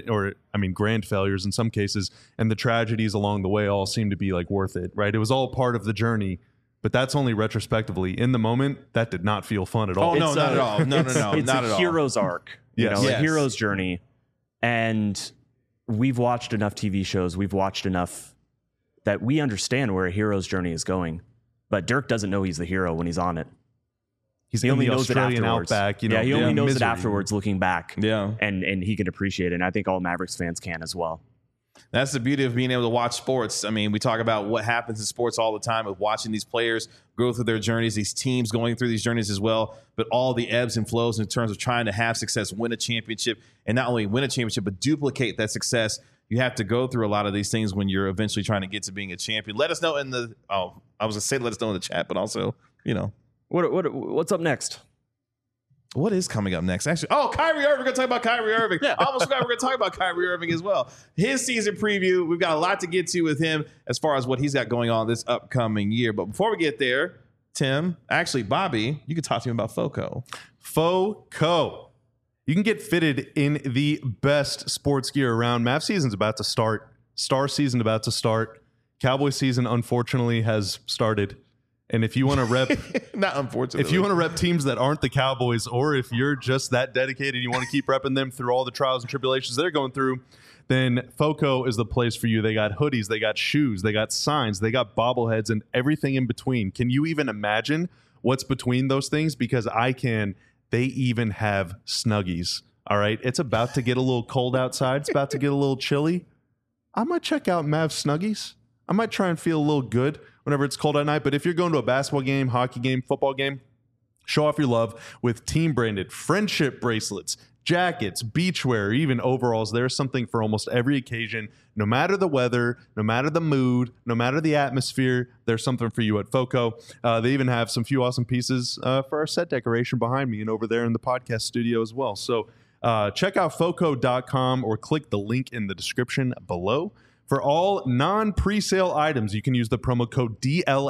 S3: grand failures in some cases, and the tragedies along the way all seem to be like worth it, right? It was all part of the journey. But that's only retrospectively. In the moment, that did not feel fun at all.
S1: Oh, no, not at all. No,
S2: It's
S1: not at all.
S2: a hero's arc,
S3: Yes.
S2: a
S1: Yes.
S2: hero's journey. And we've watched enough TV shows, we've watched enough that we understand where a hero's journey is going. But Dirk doesn't know he's the hero when he's on it.
S3: He's
S2: He
S3: in
S2: only
S3: the
S2: knows it
S3: Australian
S2: afterwards.
S3: outback. You know,
S2: he only knows
S3: misery.
S2: it afterwards, looking back.
S1: Yeah.
S2: And he can appreciate it. And I think all Mavericks fans can as well.
S1: That's the beauty of being able to watch sports. I mean, we talk about what happens in sports all the time with watching these players go through their journeys, these teams going through these journeys as well, but all the ebbs and flows in terms of trying to have success, win a championship, and not only win a championship, but duplicate that success. You have to go through a lot of these things when you're eventually trying to get to being a champion. Let us know in the I was going to say let us know in the chat, but also, you know.
S2: What's up next?
S1: What is coming up next? Actually, Kyrie Irving. We're going to talk about Kyrie Irving.
S2: Yeah.
S1: I almost forgot we're going to talk about Kyrie Irving as well. His season preview. We've got a lot to get to with him as far as what he's got going on this upcoming year. But before we get there, Tim, actually, Bobby, you can talk to me about FOCO.
S3: FOCO. You can get fitted in the best sports gear around. Mav season's about to start. Star season about to start. Cowboy season, unfortunately, has started. And if you want to rep,
S1: Not unfortunately.
S3: if you want to rep teams that aren't the Cowboys, or if you're just that dedicated, you want to keep repping them through all the trials and tribulations they're going through, then FOCO is the place for you. They got hoodies, they got shoes, they got signs, they got bobbleheads, and everything in between. Can you even imagine what's between those things? Because I can. They even have Snuggies. All right. It's about to get a little cold outside. It's about to get a little chilly. I might check out Mav Snuggies. I might try and feel a little good whenever it's cold at night. But if you're going to a basketball game, hockey game, football game, show off your love with team branded friendship bracelets, jackets, beachwear, even overalls. There's something for almost every occasion. No matter the weather, no matter the mood, no matter the atmosphere, there's something for you at FOCO. They even have some few awesome pieces for our set decoration behind me and over there in the podcast studio as well. So check out FOCO.com or click the link in the description below. For all non-presale items, you can use the promo code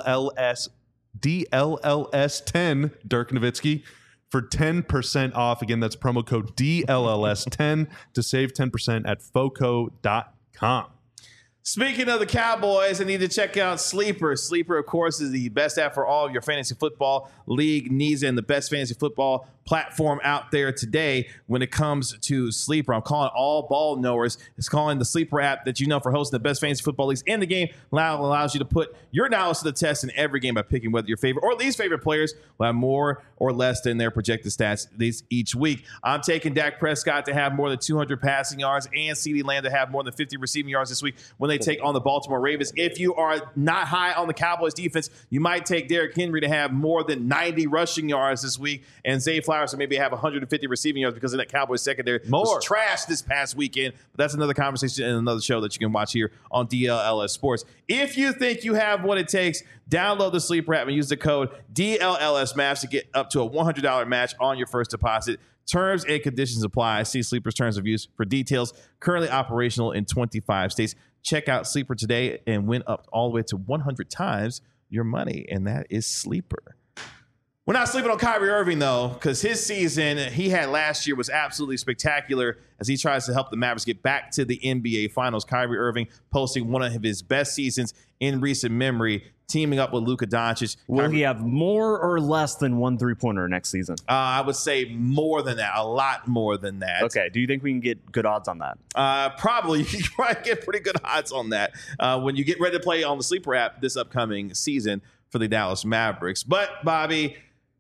S3: DLLS10, Dirk Nowitzki, for 10% off. Again, that's promo code DLLS10 to save 10% at FOCO.com.
S1: Speaking of the Cowboys, I need to check out Sleeper. Sleeper, of course, is the best app for all of your fantasy football league needs and the best fantasy football platform out there today when it comes to Sleeper. I'm calling all ball knowers. It's calling the Sleeper app that you know for hosting the best fantasy football leagues in the game. Allows you to put your knowledge to the test in every game by picking whether your favorite or least favorite players will have more or less than their projected stats each week. I'm taking Dak Prescott to have more than 200 passing yards and CeeDee Lamb to have more than 50 receiving yards this week when they take on the Baltimore Ravens. If you are not high on the Cowboys defense, you might take Derrick Henry to have more than 90 rushing yards this week, and Zay Flowers to maybe have 150 receiving yards because of that Cowboys secondary was trash this past weekend. But that's another conversation and another show that you can watch here on DLLS Sports. If you think you have what it takes, download the Sleeper app and use the code DLLSMAVs to get up to a $100 match on your first deposit. Terms and conditions apply. See Sleeper's terms of use for details. Currently operational in 25 states. Check out Sleeper today and win up all the way to 100 times your money, and that is Sleeper. We're not sleeping on Kyrie Irving, though, because his season he had last year was absolutely spectacular as he tries to help the Mavericks get back to the NBA Finals. Kyrie Irving posting one of his best seasons in recent memory, teaming up with Luka Doncic.
S2: Will he have more or less than one three-pointer next season?
S1: I would say more than that, a lot more than that.
S2: Okay. Do you think we can get good odds on that?
S1: Probably. You can probably get pretty good odds on that when you get ready to play on the Sleeper app this upcoming season for the Dallas Mavericks. But, Bobby,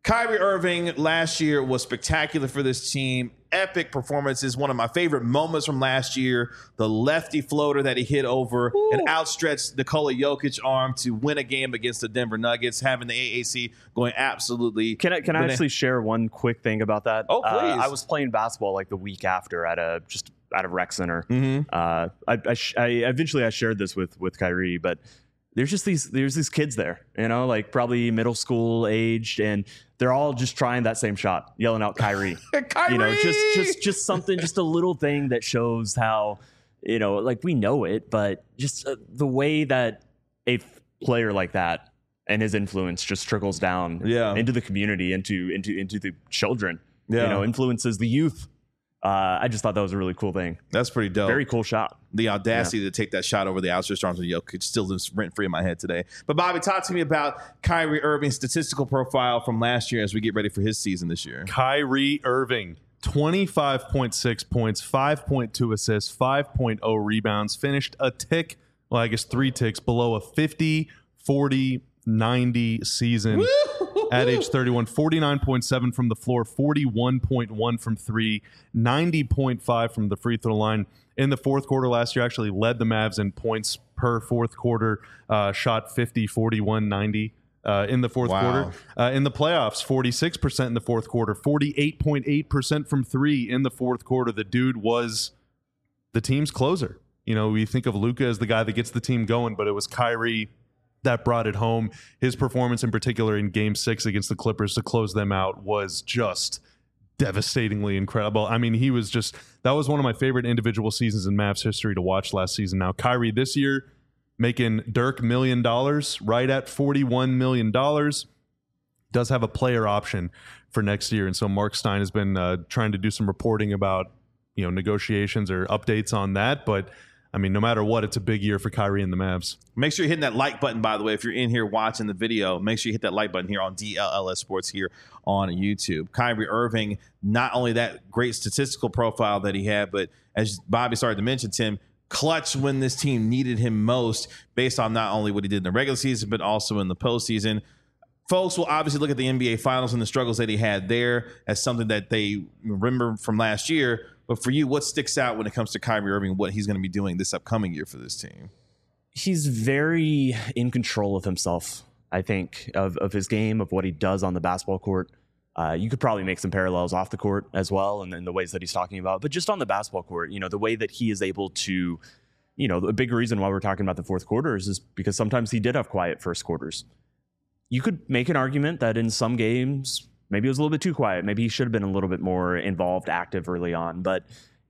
S1: Kyrie Irving last year was spectacular for this team. Epic performances. One of my favorite moments from last year, the lefty floater that he hit over an outstretched Nikola Jokic arm to win a game against the Denver Nuggets, having the AAC going absolutely.
S2: Can I actually share one quick thing about that?
S1: Oh, please.
S2: I was playing basketball like the week after at a rec center.
S1: Mm-hmm.
S2: I eventually shared this with Kyrie, but there's these kids there, like probably middle school aged, and they're all just trying that same shot, yelling out Kyrie.
S1: Kyrie!
S2: Just something, just a little thing that shows how, like we know it, but just the way that a player like that and his influence just trickles down into the community, into the children, influences the youth. I just thought that was a really cool thing.
S1: That's pretty dope.
S2: Very cool shot.
S1: The audacity to take that shot over the outstretched arms of Jokic still lives rent-free in my head today. But Bobby, talk to me about Kyrie Irving's statistical profile from last year as we get ready for his season this year.
S3: Kyrie Irving, 25.6 points, 5.2 assists, 5.0 rebounds, finished a tick, well, I guess 3 ticks below a 50, 40, 90 season at age 31. 49.7 from the floor, 41.1 from 3, 90.5 from the free throw line. In the fourth quarter last year, actually led the Mavs in points per fourth quarter, shot 50, 41, 90 in the fourth quarter. In the playoffs, 46% in the fourth quarter, 48.8% from 3 in the fourth quarter. The dude was the team's closer. We think of Luka as the guy that gets the team going, but it was Kyrie that brought it home. His performance in particular in Game 6 against the Clippers to close them out was just devastatingly incredible. I mean, that was one of my favorite individual seasons in Mavs history to watch last season. Now, Kyrie this year making Dirk $1 million, right at $41 million. Does have a player option for next year. And so Mark Stein has been trying to do some reporting about, negotiations or updates on that. But I mean, no matter what, it's a big year for Kyrie and the Mavs.
S1: Make sure you're hitting that like button, by the way. If you're in here watching the video, make sure you hit that like button here on DLLS Sports here on YouTube. Kyrie Irving, not only that great statistical profile that he had, but as Bobby started to mention, Tim, clutch when this team needed him most based on not only what he did in the regular season, but also in the postseason. Folks will obviously look at the NBA Finals and the struggles that he had there as something that they remember from last year. But for you, what sticks out when it comes to Kyrie Irving, what he's going to be doing this upcoming year for this team?
S2: He's very in control of himself, I think, of his game, of what he does on the basketball court. You could probably make some parallels off the court as well, and in the ways that he's talking about. But just on the basketball court, the way that he is able to, the big reason why we're talking about the fourth quarters is because sometimes he did have quiet first quarters. You could make an argument that in some games, maybe it was a little bit too quiet. Maybe he should have been a little bit more involved, active early on. But,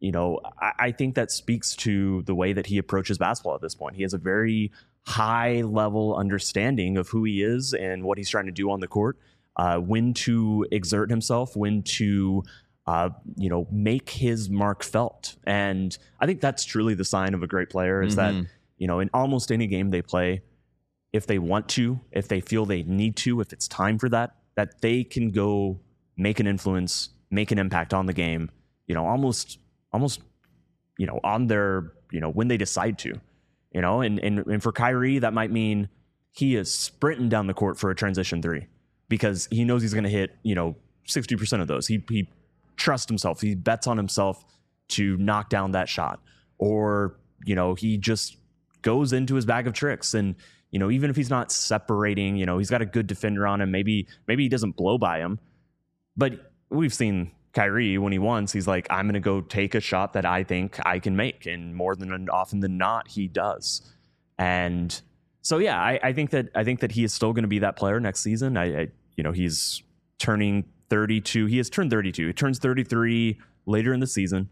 S2: I think that speaks to the way that he approaches basketball at this point. He has a very high level understanding of who he is and what he's trying to do on the court, when to exert himself, when to, make his mark felt. And I think that's truly the sign of a great player is that, in almost any game they play, if they want to, if they feel they need to, if it's time for that they can go make an influence, make an impact on the game, almost, on their, when they decide to, and for Kyrie, that might mean he is sprinting down the court for a transition 3 because he knows he's going to hit, 60% of those. He trusts himself. He bets on himself to knock down that shot, or, he just goes into his bag of tricks and, even if he's not separating, he's got a good defender on him. Maybe he doesn't blow by him. But we've seen Kyrie when he wants, he's like, I'm going to go take a shot that I think I can make. And more than often than not, he does. And so, yeah, I think that he is still going to be that player next season. He's turning 32. He has turned 32. He turns 33 later in the season.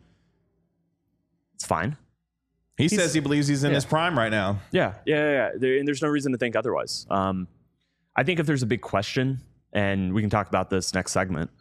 S2: It's fine.
S1: He says he believes he's in his prime right now.
S2: Yeah. And there's no reason to think otherwise. I think if there's a big question, and we can talk about this next segment,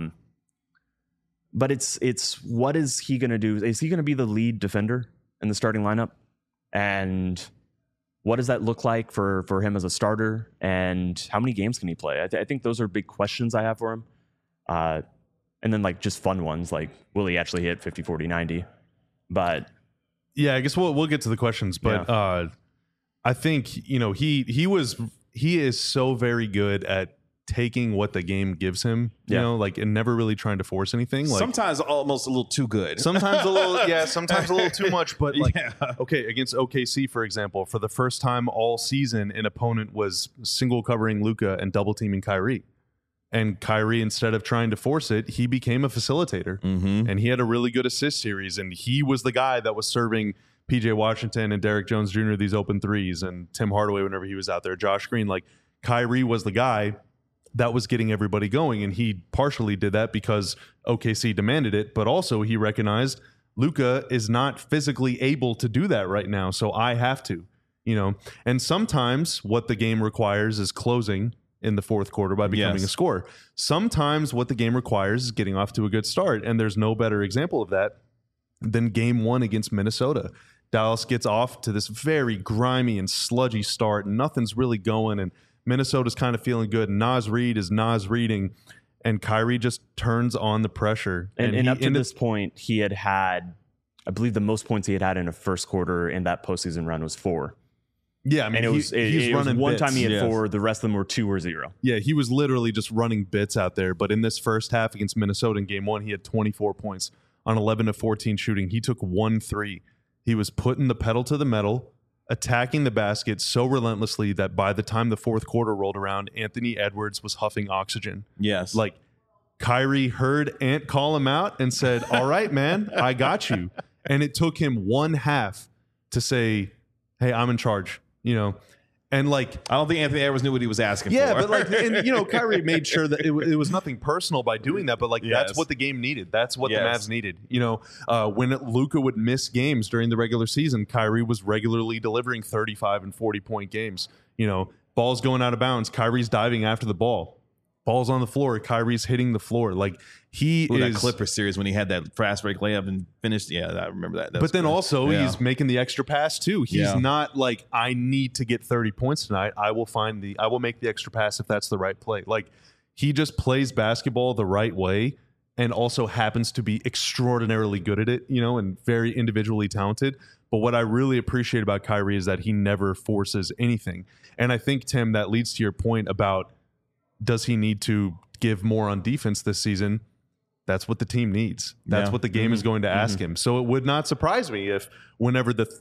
S2: but it's what is he going to do? Is he going to be the lead defender in the starting lineup? And what does that look like for him as a starter? And how many games can he play? I think those are big questions I have for him. And then like just fun ones, like will he actually hit 50, 40, 90? But
S3: yeah, I guess we'll get to the questions, but I think he is so very good at taking what the game gives him, you
S2: Yeah.
S3: know, like, and never really trying to force anything. Like
S1: Sometimes almost a little too good.
S3: sometimes a little, sometimes a little too much. But like,
S1: Yeah.
S3: okay, against OKC, for example, for the first time all season, an opponent was single covering Luka and double teaming Kyrie. And Kyrie, instead of trying to force it, he became a facilitator. And he had a really good assist series. And he was the guy that was serving PJ Washington and Derek Jones Jr. these open threes, and Tim Hardaway whenever he was out there, Josh Green. Like, Kyrie was the guy that was getting everybody going. And he partially did that because OKC demanded it, but also he recognized Luka is not physically able to do that right now. So I have to, you know. And sometimes what the game requires is closing in the fourth quarter by becoming a scorer. Sometimes what the game requires is getting off to a good start. And there's no better example of that than game 1 against Minnesota. Dallas gets off to this very grimy and sludgy start, and nothing's really going, and Minnesota's kind of feeling good. Naz Reid is Naz Reiding, and Kyrie just turns on the pressure.
S2: And up to this point, he had, I believe the most points he had in a first quarter in that postseason run was 4.
S3: Yeah, I mean,
S2: And it was one time he had
S1: Yes.
S2: 4, the rest of them were 2 or 0.
S3: Yeah, he was literally just running bits out there. But in this first half against Minnesota in game 1, he had 24 points on 11 of 14 shooting. He took 1 3. He was putting the pedal to the metal, attacking the basket so relentlessly that by the time the fourth quarter rolled around, Anthony Edwards was huffing oxygen.
S1: Yes.
S3: Like, Kyrie heard Ant call him out and said, all right, man, I got you. And it took him 1 half to say, hey, I'm in charge, you know. And like,
S1: I don't think Anthony Edwards knew what he was asking
S3: yeah,
S1: for.
S3: but like, and you know, Kyrie made sure that it was nothing personal by doing that, but like,
S1: Yes.
S3: that's what the game needed. That's what
S1: Yes.
S3: the Mavs needed. You know, when Luka would miss games during the regular season, Kyrie was regularly delivering 35 and 40-point games. You know, balls going out of bounds, Kyrie's diving after the ball. Ball's on the floor, Kyrie's hitting the floor. Like, he
S1: Ooh,
S3: is
S1: that Clippers series when he had that fast break layup and finished. Yeah, I remember that.
S3: But then also he's making the extra pass too. He's
S1: Yeah.
S3: not like, I need to get 30 points tonight. I will make the extra pass if that's the right play. Like, he just plays basketball the right way and also happens to be extraordinarily good at it, you know, and very individually talented. But what I really appreciate about Kyrie is that he never forces anything. And I think, Tim, that leads to your point about, does he need to give more on defense this season? That's what the team needs. That's
S1: Yeah.
S3: what the game is going to ask him. So it would not surprise me if whenever the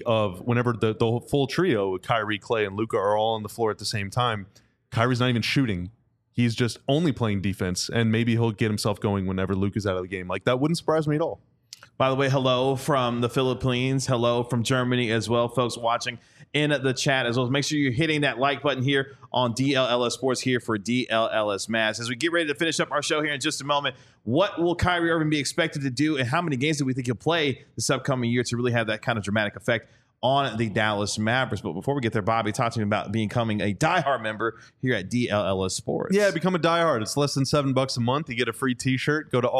S3: full trio, Kyrie, Klay, and Luka are all on the floor at the same time, Kyrie's not even shooting. He's just only playing defense, and maybe he'll get himself going whenever Luka's out of the game. Like, that wouldn't surprise me at all.
S1: By the way, hello from the Philippines. Hello from Germany as well, folks watching in the chat as well. Make sure you're hitting that like button here on DLLS Sports here for DLLS Mavs. As we get ready to finish up our show here in just a moment, what will Kyrie Irving be expected to do, and how many games do we think he'll play this upcoming year to really have that kind of dramatic effect on the Dallas Mavericks? But before we get there, Bobby, talk to me about becoming a diehard member here at DLLS Sports.
S3: Yeah, become a diehard. It's less than $7 a month. You get a free t-shirt. Go to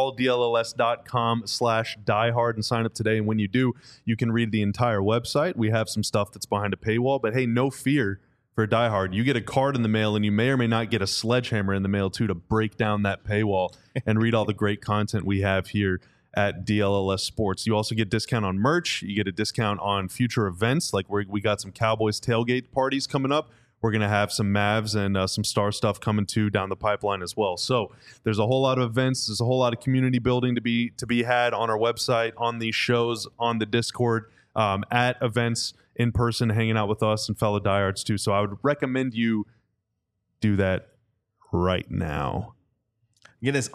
S3: alldlls.com/diehard and sign up today. And when you do, you can read the entire website. We have some stuff that's behind a paywall, but hey, no fear for a diehard. You get a card in the mail, and you may or may not get a sledgehammer in the mail too to break down that paywall and read all the great content we have here at DLLS Sports. You also get discount on merch. You get a discount on future events. Like we got some Cowboys tailgate parties coming up. We're going to have some Mavs and some Star stuff coming too down the pipeline as well. So there's a whole lot of events. There's a whole lot of community building to be had on our website, on these shows, on the Discord, at events, in person, hanging out with us and fellow diehards too. So I would recommend you do that right now.
S1: Again, it's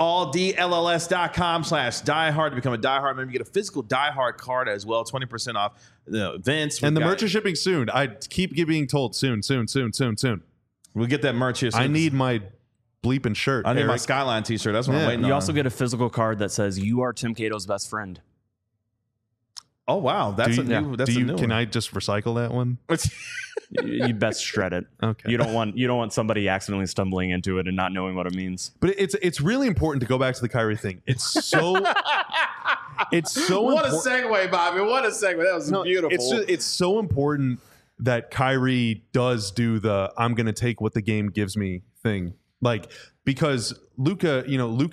S1: alldlls.com/diehard to become a diehard member. You get a physical diehard card as well, 20% off the events.
S3: And the merch is shipping soon. I keep being told soon.
S1: We'll get that merch here soon.
S3: I need my bleeping shirt.
S1: I need my
S3: Eric.
S1: Skyline t-shirt. That's what I'm
S3: Yeah.
S1: waiting on.
S2: You also get a physical card that says you are Tim Cato's best friend.
S1: Oh, wow. That's a new
S3: Can
S1: one.
S3: I just recycle that one?
S2: You best shred it.
S3: Okay.
S2: You don't want somebody accidentally stumbling into it and not knowing what it means.
S3: But it's really important to go back to the Kyrie thing. It's so
S1: What a
S3: important.
S1: segue, Bobby. What a segue. That was beautiful.
S3: It's so important that Kyrie does do the I'm going to take what the game gives me thing. Like, because Luka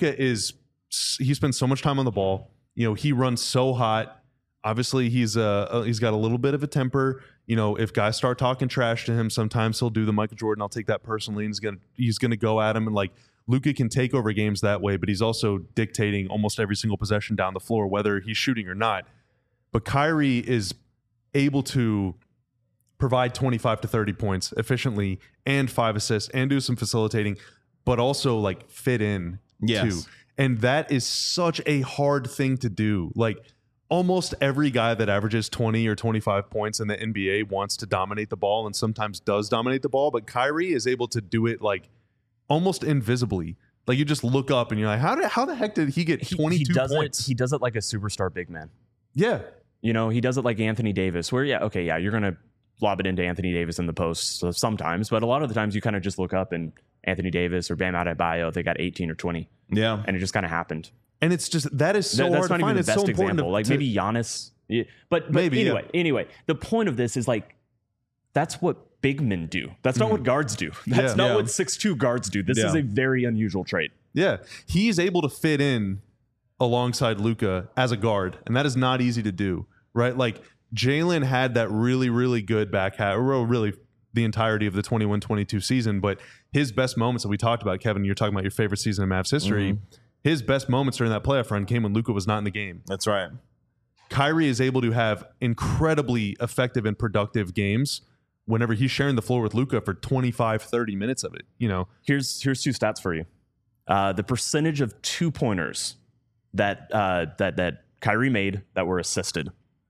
S3: he spends so much time on the ball. You know, he runs so hot. Obviously, he's got a little bit of a temper. if guys start talking trash to him, sometimes he'll do the Michael Jordan, I'll take that personally, and he's gonna go at him. And like Luka can take over games that way, but he's also dictating almost every single possession down the floor, whether he's shooting or not. But Kyrie is able to provide 25 to 30 points efficiently and 5 assists and do some facilitating, but also like fit in too. And that is such a hard thing to do. Like almost every guy that averages 20 or 25 points in the NBA wants to dominate the ball and sometimes does dominate the ball, but Kyrie is able to do it like almost invisibly. Like you just look up and you're like, how the heck did he get 22 points?
S2: He does it like a superstar big man.
S3: Yeah.
S2: He does it like Anthony Davis, where, you're going to lob it into Anthony Davis in the post sometimes, but a lot of the times you kind of just look up and Anthony Davis or Bam Adebayo, they got 18 or 20.
S1: Yeah.
S2: And it just kind of happened.
S3: And it's just, that is so hard to find.
S2: That's not even the best example. Like maybe Giannis. Yeah. But maybe, anyway, the point of this is like, that's what big men do. That's not what guards do. That's not what 6'2" guards do. This is a very unusual trait.
S3: Yeah. He's able to fit in alongside Luka as a guard, and that is not easy to do, right? Like Jalen had that really, really good back half, or really the entirety of the 21-22 season, but his best moments that we talked about, Kevin, you're talking about your favorite season in Mavs history. His best moments during that playoff run came when Luka was not in the game.
S1: That's right.
S3: Kyrie is able to have incredibly effective and productive games whenever he's sharing the floor with Luka for 25, 30 minutes of it.
S2: Here's 2 stats for you. The percentage of 2-pointers that Kyrie made that were assisted,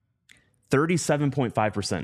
S2: 37.5%.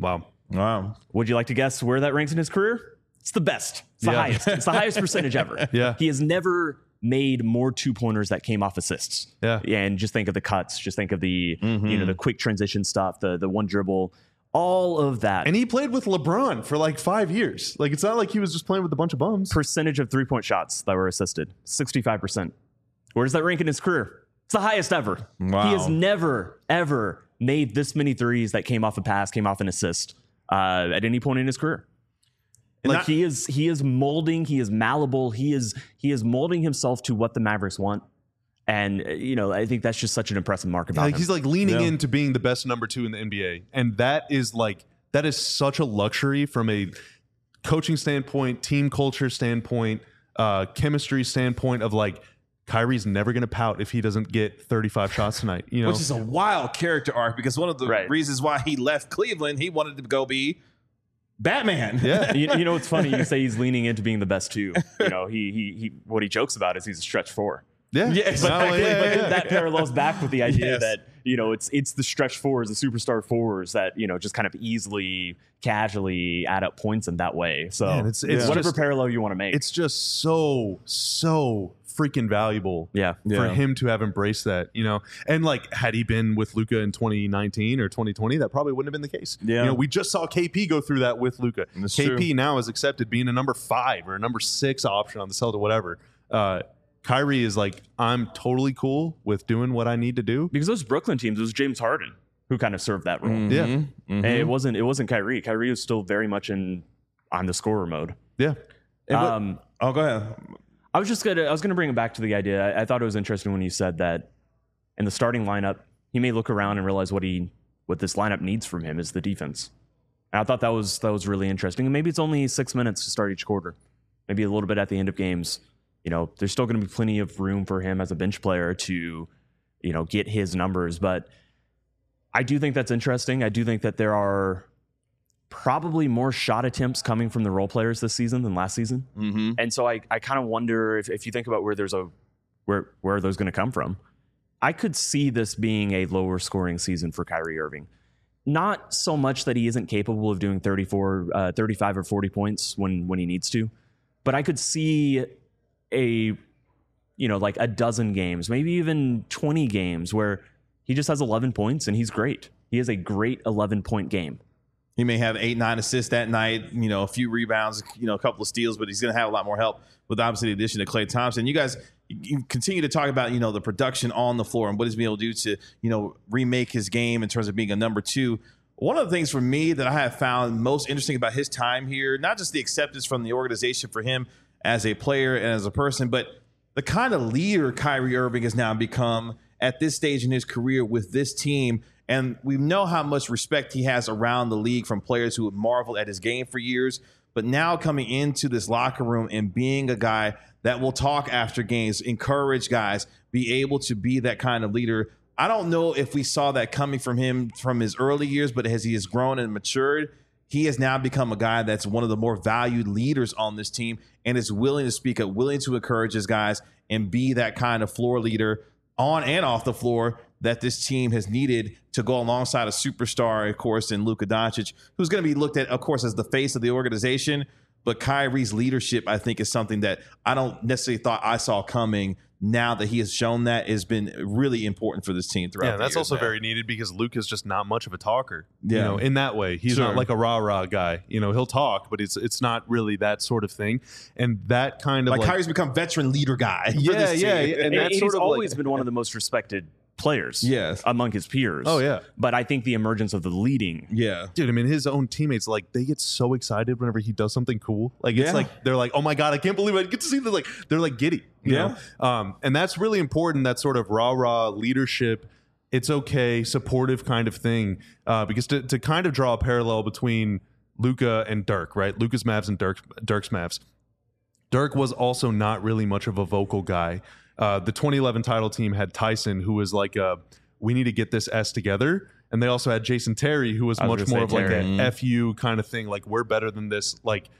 S3: Wow.
S2: Would you like to guess where that ranks in his career? It's the best. It's the highest. It's the highest percentage ever.
S3: Yeah.
S2: He has never made more 2-pointers that came off assists.
S3: Yeah.
S2: And just think of the cuts. Just think of the the quick transition stuff, the one dribble, all of that.
S3: And he played with LeBron for like 5 years. Like it's not like he was just playing with a bunch of bums.
S2: Percentage of 3-point shots that were assisted, 65%. Where does that rank in his career? It's the highest ever.
S1: Wow.
S2: He has never, ever made this many threes that came off a pass, came off an assist at any point in his career. Like he is molding, he is malleable, he is molding himself to what the Mavericks want. And I think that's just such an impressive mark about him.
S3: He's like leaning into being the best number 2 in the NBA. And that is such a luxury from a coaching standpoint, team culture standpoint, chemistry standpoint of like Kyrie's never going to pout if he doesn't get 35 shots tonight.
S1: Which is a wild character arc because one of the reasons why he left Cleveland, he wanted to go be Batman.
S3: Yeah.
S2: you know, it's funny. You say he's leaning into being the best too. He what he jokes about is he's a stretch 4.
S3: Yeah.
S2: But that parallels back with the idea that, it's the stretch fours, the superstar fours that, just kind of easily, casually add up points in that way. So
S3: it's
S2: whatever
S3: just,
S2: parallel you want to make.
S3: It's just so freaking valuable for him to have embraced that, and like had he been with Luka in 2019 or 2020, that probably wouldn't have been the case. We just saw KP go through that with Luka. KP now is accepted being a number 5 or a number 6 option on the Celtics, whatever. Kyrie is like, I'm totally cool with doing what I need to do.
S2: Because those Brooklyn teams, it was James Harden who kind of served that role.
S3: And
S2: it wasn't Kyrie. Kyrie was still very much on the scorer mode.
S3: Yeah.
S1: Go ahead.
S2: I was gonna bring it back to the idea. I thought it was interesting when you said that in the starting lineup, he may look around and realize what this lineup needs from him is the defense. And I thought that was really interesting. And maybe it's only 6 minutes to start each quarter. Maybe a little bit at the end of games. There's still going to be plenty of room for him as a bench player to, get his numbers. But I do think that's interesting. I do think that there are probably more shot attempts coming from the role players this season than last season. And so I kind of wonder if you think about where are those going to come from? I could see this being a lower scoring season for Kyrie Irving. Not so much that he isn't capable of doing 35 or 40 points when he needs to, but I could see a dozen games, maybe even 20 games where he just has 11 points and he's great. He has a great 11-point game.
S1: He may have 8-9 assists that night, a few rebounds, a couple of steals, but he's going to have a lot more help with obviously the addition of Klay Thompson. You guys you continue to talk about, the production on the floor and what he's been able to do to, remake his game in terms of being a number 2. One of the things for me that I have found most interesting about his time here, not just the acceptance from the organization for him as a player and as a person, but the kind of leader Kyrie Irving has now become at this stage in his career with this team And we know how much respect he has around the league from players who have marveled at his game for years. But now coming into this locker room and being a guy that will talk after games, encourage guys, be able to be that kind of leader. I don't know if we saw that coming from him from his early years, but as he has grown and matured, he has now become a guy that's one of the more valued leaders on this team and is willing to speak up, willing to encourage his guys and be that kind of floor leader on and off the floor that this team has needed to go alongside a superstar, of course, in Luka Doncic, who's going to be looked at, of course, as the face of the organization. But Kyrie's leadership, I think, is something that I don't necessarily thought I saw coming. Now that he has shown that, has been really important for this team throughout.
S3: Yeah,
S1: the
S3: that's
S1: years
S3: also
S1: now.
S3: very needed because Luka's just not much of a talker.
S1: Yeah.
S3: You know, in that way, he's
S1: Sure.
S3: not like a rah-rah guy. You know, he'll talk, but it's not really that sort of thing. And that kind of
S1: Like Kyrie's become veteran leader guy. for
S3: Yeah,
S1: this
S3: yeah,
S1: team.
S3: and
S2: And
S3: that's
S2: he's
S3: sort of
S2: always
S3: like-
S2: been one of the most respected players
S1: Yes.
S2: among his peers.
S3: Oh, yeah.
S2: But I think the emergence of the leading.
S1: Yeah.
S3: Dude, I mean, his own teammates, like, they get so excited whenever he does something cool. Like, it's
S1: Yeah.
S3: like, they're like, oh my God, I can't believe I get to see this. Like, they're like giddy. You
S1: Yeah.
S3: know? And that's really important, that sort of rah-rah leadership. It's okay, supportive kind of thing. Because to kind of draw a parallel between Luka and Dirk, right? Luka's Mavs and Dirk's Mavs. Dirk was also not really much of a vocal guy. The 2011 title team had Tyson, who was like we need to get this S together. And they also had Jason Terry, who was
S2: I was
S3: much
S2: gonna
S3: more of
S2: say
S3: like
S2: Terry.
S3: a FU kind of thing. Like, we're better than this. Like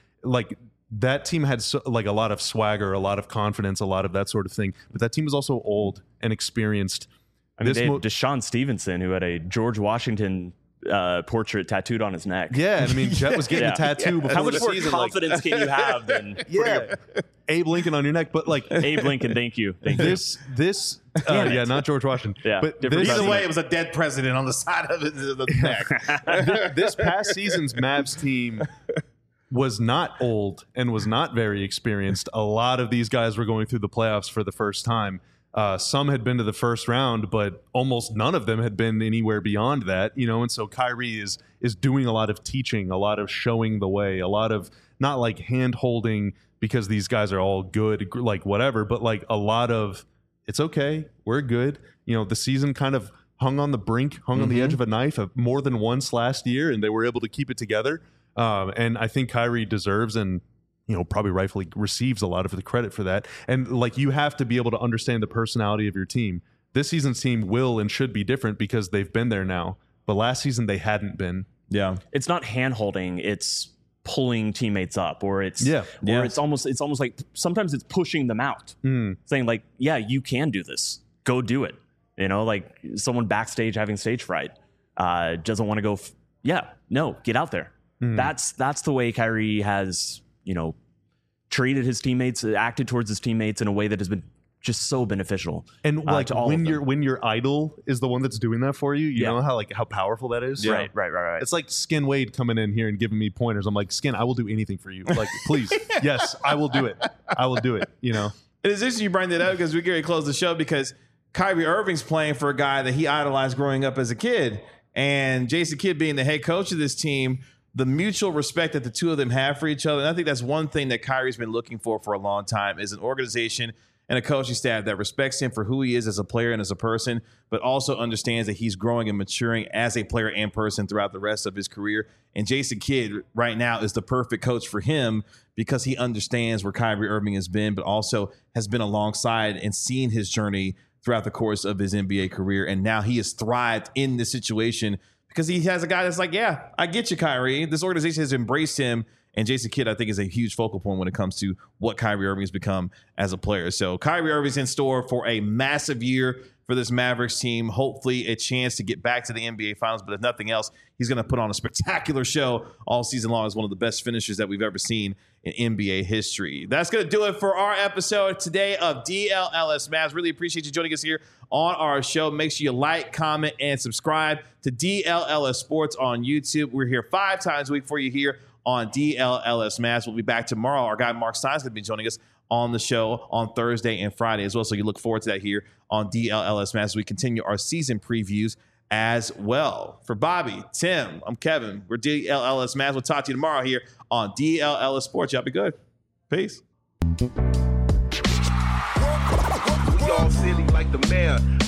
S3: that team had like a lot of swagger, a lot of confidence, a lot of that sort of thing. But that team was also old and experienced.
S2: I mean, they had Deshaun Stevenson, who had a George Washington portrait tattooed on his neck.
S3: Yeah, and I mean, Jet was getting
S2: Yeah.
S3: a tattoo before
S2: How much
S3: the
S2: more
S3: season.
S2: confidence can you have than
S3: Yeah, Abe Lincoln on your neck, but like
S2: Abe Lincoln? Thank you.
S3: this, yeah, not George Washington.
S2: Yeah,
S3: but
S2: different
S3: this,
S1: Either way, it was a dead president on the side of the neck.
S3: this past season's Mavs team was not old and was not very experienced. A lot of these guys were going through the playoffs for the first time. Some had been to the first round, but almost none of them had been anywhere beyond that, you know. And so Kyrie is doing a lot of teaching, a lot of showing the way, a lot of not like hand holding because these guys are all good, like whatever, but like a lot of it's okay, we're good. You know, the season kind of hung on the brink, hung on the edge of a knife more than once last year, and they were able to keep it together. And I think Kyrie deserves and, you know, probably rightfully receives a lot of the credit for that. And like, you have to be able to understand the personality of your team. This season's team will and should be different because they've been there now. But last season they hadn't been.
S1: Yeah.
S2: It's not hand holding, it's pulling teammates up, or it's it's almost like sometimes it's pushing them out, saying like, yeah, you can do this, go do it. You know, like someone backstage having stage fright, doesn't want to go. Get out there. That's the way Kyrie has, you know, treated his teammates, acted towards his teammates in a way that has been just so beneficial.
S3: And like
S2: to all
S3: when
S2: of them.
S3: when your idol is the one that's doing that for you, you know how powerful that is.
S1: Yeah.
S2: Right.
S3: It's like Skin Wade coming in here and giving me pointers. I'm like, Skin, I will do anything for you. Like, please, yes, I will do it. I will do it. You know.
S1: It is interesting you bring that up because we're going to close the show because Kyrie Irving's playing for a guy that he idolized growing up as a kid. And Jason Kidd being the head coach of this team, the mutual respect that the two of them have for each other. And I think that's one thing that Kyrie's been looking for a long time is an organization and a coaching staff that respects him for who he is as a player and as a person, but also understands that he's growing and maturing as a player and person throughout the rest of his career. And Jason Kidd right now is the perfect coach for him because he understands where Kyrie Irving has been, but also has been alongside and seen his journey throughout the course of his NBA career. And now he has thrived in this situation because he has a guy that's like, yeah, I get you, Kyrie. This organization has embraced him. And Jason Kidd, I think, is a huge focal point when it comes to what Kyrie Irving has become as a player. So Kyrie Irving's in store for a massive year for this Mavericks team. Hopefully a chance to get back to the NBA Finals. But if nothing else, he's going to put on a spectacular show all season long as one of the best finishers that we've ever seen in NBA history. That's going to do it for our episode today of DLLS Mavs. Really appreciate you joining us here on our show. Make sure you like, comment, and subscribe to DLLS Sports on YouTube. We're here 5 times a week for you here on DLLS Mavs. We'll be back tomorrow. Our guy Mark Stein's going to be joining us on the show on Thursday and Friday as well. So you look forward to that here on DLLS Mavs as we continue our season previews as well. For Bobby, Tim, I'm Kevin. We're DLLS Mavs. We'll talk to you tomorrow here on DLLS Sports. Y'all be good. Peace.
S4: We all silly like the mayor.